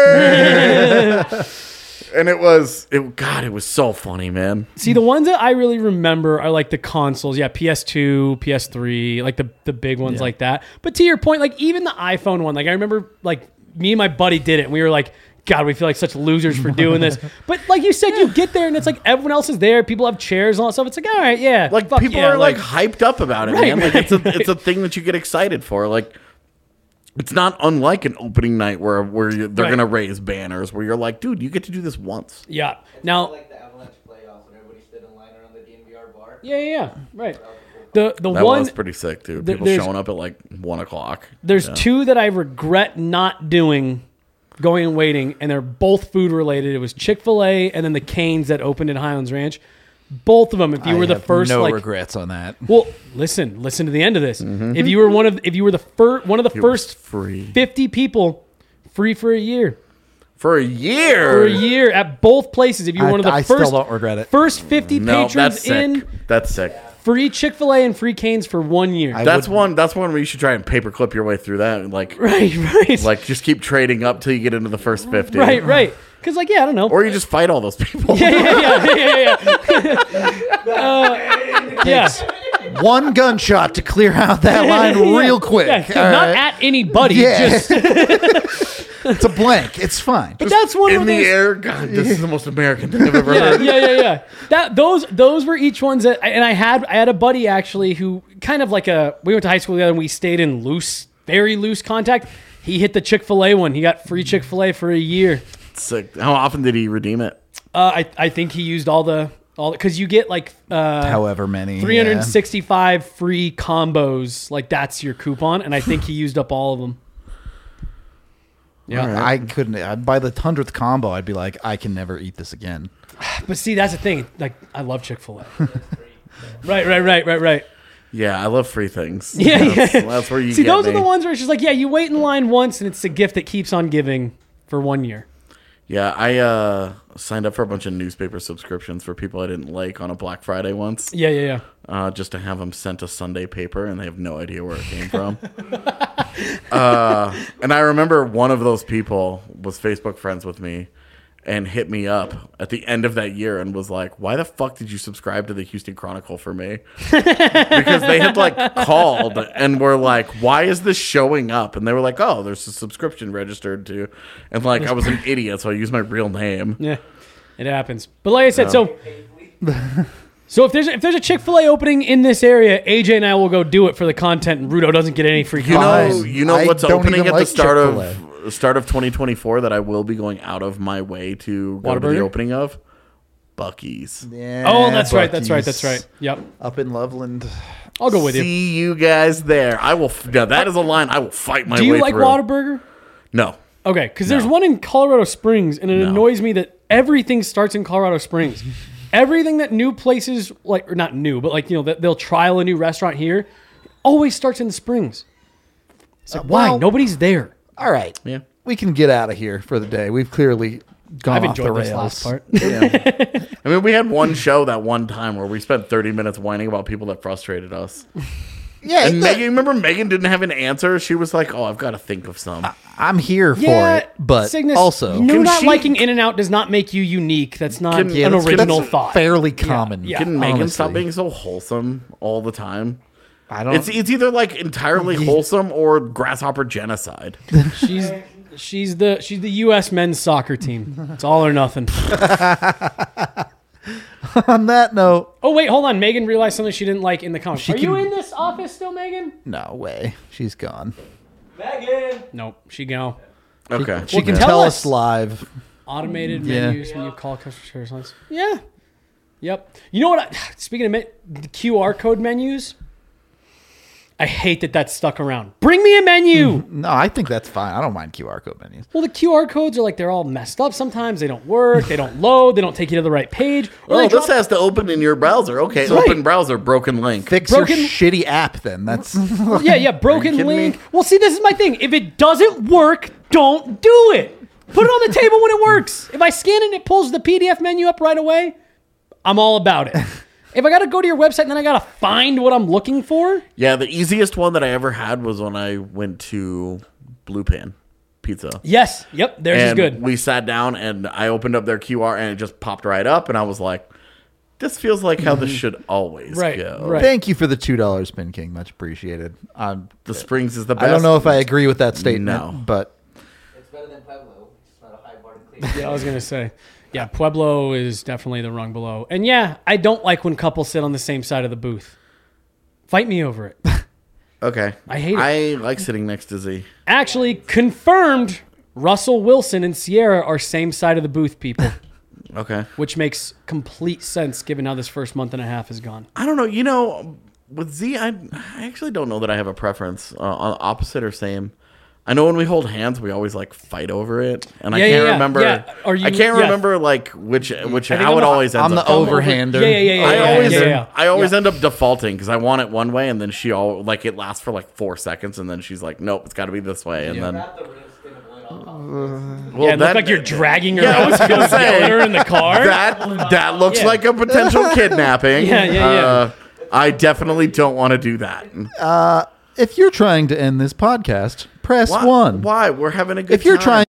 Payne! And it was, it God, it was so funny, man. See, the ones that I really remember are like the consoles. Yeah, P S two, P S three, like the, the big ones Yeah. like that. But to your point, like even the iPhone one, like I remember like me and my buddy did it. And we were like, God, we feel like such losers for doing this. But like you said, you get there and it's like everyone else is there. People have chairs and all that stuff. It's like, all right, yeah. Like fuck people yeah, are like, hyped up about it, Right, man. Like right, it's a right. it's a thing that you get excited for. Like it's not unlike an opening night where where you, they're Right. gonna raise banners where you're like, dude, you get to do this once. yeah. Now, Like the Avalanche playoffs when everybody stood in line around the D N V R bar. yeah, yeah, yeah. Right. The the That one was pretty sick, too. there- People there's- showing up at like one o'clock. There's Yeah. two that I regret not doing, going and waiting, and they're both food related. It was Chick-fil-A and then the Canes that opened in Highlands Ranch. Both of them, if you I were the have first, no like, regrets on that. well, listen, listen to the end of this. If you were one of, if you were the first, one of the Mm-hmm. It was first free fifty people, free for a year, for a year. for a year at both places. If you were I, one of the I first, still don't regret it. first fifty No, patrons that's sick. in, That's sick. free Chick-fil-A and free Canes for one year. I That's would- one. That's one where you should try and paperclip your way through that. And like, right, right, like just keep trading up till you get into the first fifty. right, right. Because like, yeah, I don't know. Or you just fight all those people. yeah, yeah, yeah, yeah, yeah. uh, yeah. One gunshot to clear out that line real quick. Yeah, All not right? at anybody. Yeah. Just, It's a blank. It's fine. but that's one In of the those. air. God, this is the most American thing I've ever Yeah, heard. yeah, yeah, yeah. That those those were each ones that, and I had I had a buddy actually who kind of like a we went to high school together and we stayed in loose, very loose contact. He hit the Chick-fil-A one. He got free Chick-fil-A for a year. Sick. How often did he redeem it? Uh, I I think he used all the all because you get like uh, However many. three hundred sixty-five free combos. Like that's your coupon, and I think he used up all of them. Yeah. Yeah. I couldn't. I'd, by the hundredth combo, I'd be like, I can never eat this again. But see, that's the thing. Like, I love Chick-fil-A. right, right, right, right, right. Yeah, I love free things. Yeah, that's, yeah. that's where you See, get those me. are the ones where it's just like, yeah, you wait in line once, and it's a gift that keeps on giving for one year. Yeah, I uh, signed up for a bunch of newspaper subscriptions for people I didn't like on a Black Friday once, Yeah, yeah, yeah. uh, just to have them sent a Sunday paper, and they have no idea where it came from. uh, and I remember one of those people was Facebook friends with me and hit me up at the end of that year and was like, why the fuck did you subscribe to the Houston Chronicle for me? Because they had like called and were like, why is this showing up? And they were like, oh, there's a subscription registered to. And like, I was an idiot, so I used my real name. Yeah, it happens. But like I said, so so if there's if there's a Chick-fil-A opening in this area, A J and I will go do it for the content, and Rudo doesn't get any free You know, combos. you know I what's don't opening even at like the start Chick-fil-A. of start of twenty twenty-four that I will be going out of my way to go to the Whataburger? opening of? Buc-ee's. Yeah, Oh, that's right, that's right, Buc-ee's. that's right. Yep, Up in Loveland. I'll go with you. See you guys there. I will. f- Now that is a line I will fight my Do you way like through. Whataburger? No. Okay, because there's No. one in Colorado Springs, and it No. annoys me that Everything starts in Colorado Springs. Everything that new places like, or not new, but like you know, that they'll trial a new restaurant here, always starts in the Springs. It's like, Uh, why? well- Nobody's there. All right. Yeah. We can get out of here for the day. We've clearly gone I've off the enjoyed rails. this last part. Yeah. I mean, we had one show that one time where we spent thirty minutes whining about people that frustrated us. yeah. And the- Megan, remember Megan didn't have an answer? She was like, oh, I've got to think of some. I'm here for Yeah, it, but Cygnus, also no, Can not she- liking In-N-Out does not make you unique. That's not Can- yeah, an that's- original that's thought. fairly common. yeah. Can Megan honestly. stop being so wholesome all the time? I don't. It's it's either like entirely wholesome or grasshopper genocide. She's she's the she's the U S men's soccer team. It's all or nothing. On that note, Oh wait, hold on. Megan realized something she didn't like in the comments. She Are you can- in this office still, Megan? no way. She's gone. Nope. She go. Okay. She can tell tell us. us live. Automated Yeah. menus when you call customer service lines. Yeah. Yep. You know what? I, speaking of men, the Q R code menus, I hate that that's stuck around. Bring me a menu. No, I think that's fine. I don't mind Q R code menus. Well, the Q R codes are like they're all messed up. Sometimes they don't work. They don't load. They don't take you to the right page. Or Oh, they this drop- has to open in your browser. Okay, Right. open browser, broken link. Fix Broken- your shitty app then. That's Yeah, yeah, broken kidding link. me? Well, see, this is my thing. If it doesn't work, don't do it. Put it on the table when it works. If I scan it and it pulls the P D F menu up right away, I'm all about it. If I got to go to your website and then I got to find what I'm looking for, Yeah, the easiest one that I ever had was when I went to Blue Pan Pizza. yes, yep, theirs is And good. we sat down and I opened up their Q R and it just popped right up and I was like, this feels like how this should always Right, go. right. Thank you for the two dollars Spin King. Much appreciated. Um, The Springs is the best. I don't know if I agree with that statement, No. but It's better than Pueblo. It's not a high bar to clear. Yeah, I was gonna say, yeah, Pueblo is definitely the rung below. And yeah, I don't like when couples sit on the same side of the booth. Fight me over it. Okay. I hate it. I like sitting next to Z. Actually, confirmed. Russell Wilson and Sierra are same side of the booth, people, Okay. which makes complete sense given how this first month and a half has gone. I don't know. You know, with Z, I, I actually don't know that I have a preference uh, on opposite or same. I know when we hold hands, we always like fight over it, and I Yeah, can't yeah, yeah. remember. Yeah. Are you- I can't yeah. remember like which which think how I'm it the- always ends I'm the up. going. overhander. Yeah, yeah, yeah, yeah. I yeah, always yeah, yeah. I always Yeah. end up defaulting because I want it one way, and then she all like it lasts for like four seconds, and then she's like, "Nope, it's got to be this way," and then well, Yeah, it that- looked like you're dragging her Yeah, I out, was gonna say, yelling her in the car. that that looks Yeah. like a potential kidnapping. Yeah, yeah, yeah. Uh, I definitely don't want to do that. if you're trying to end this podcast, press Why? one. Why? We're having a good If you're time. trying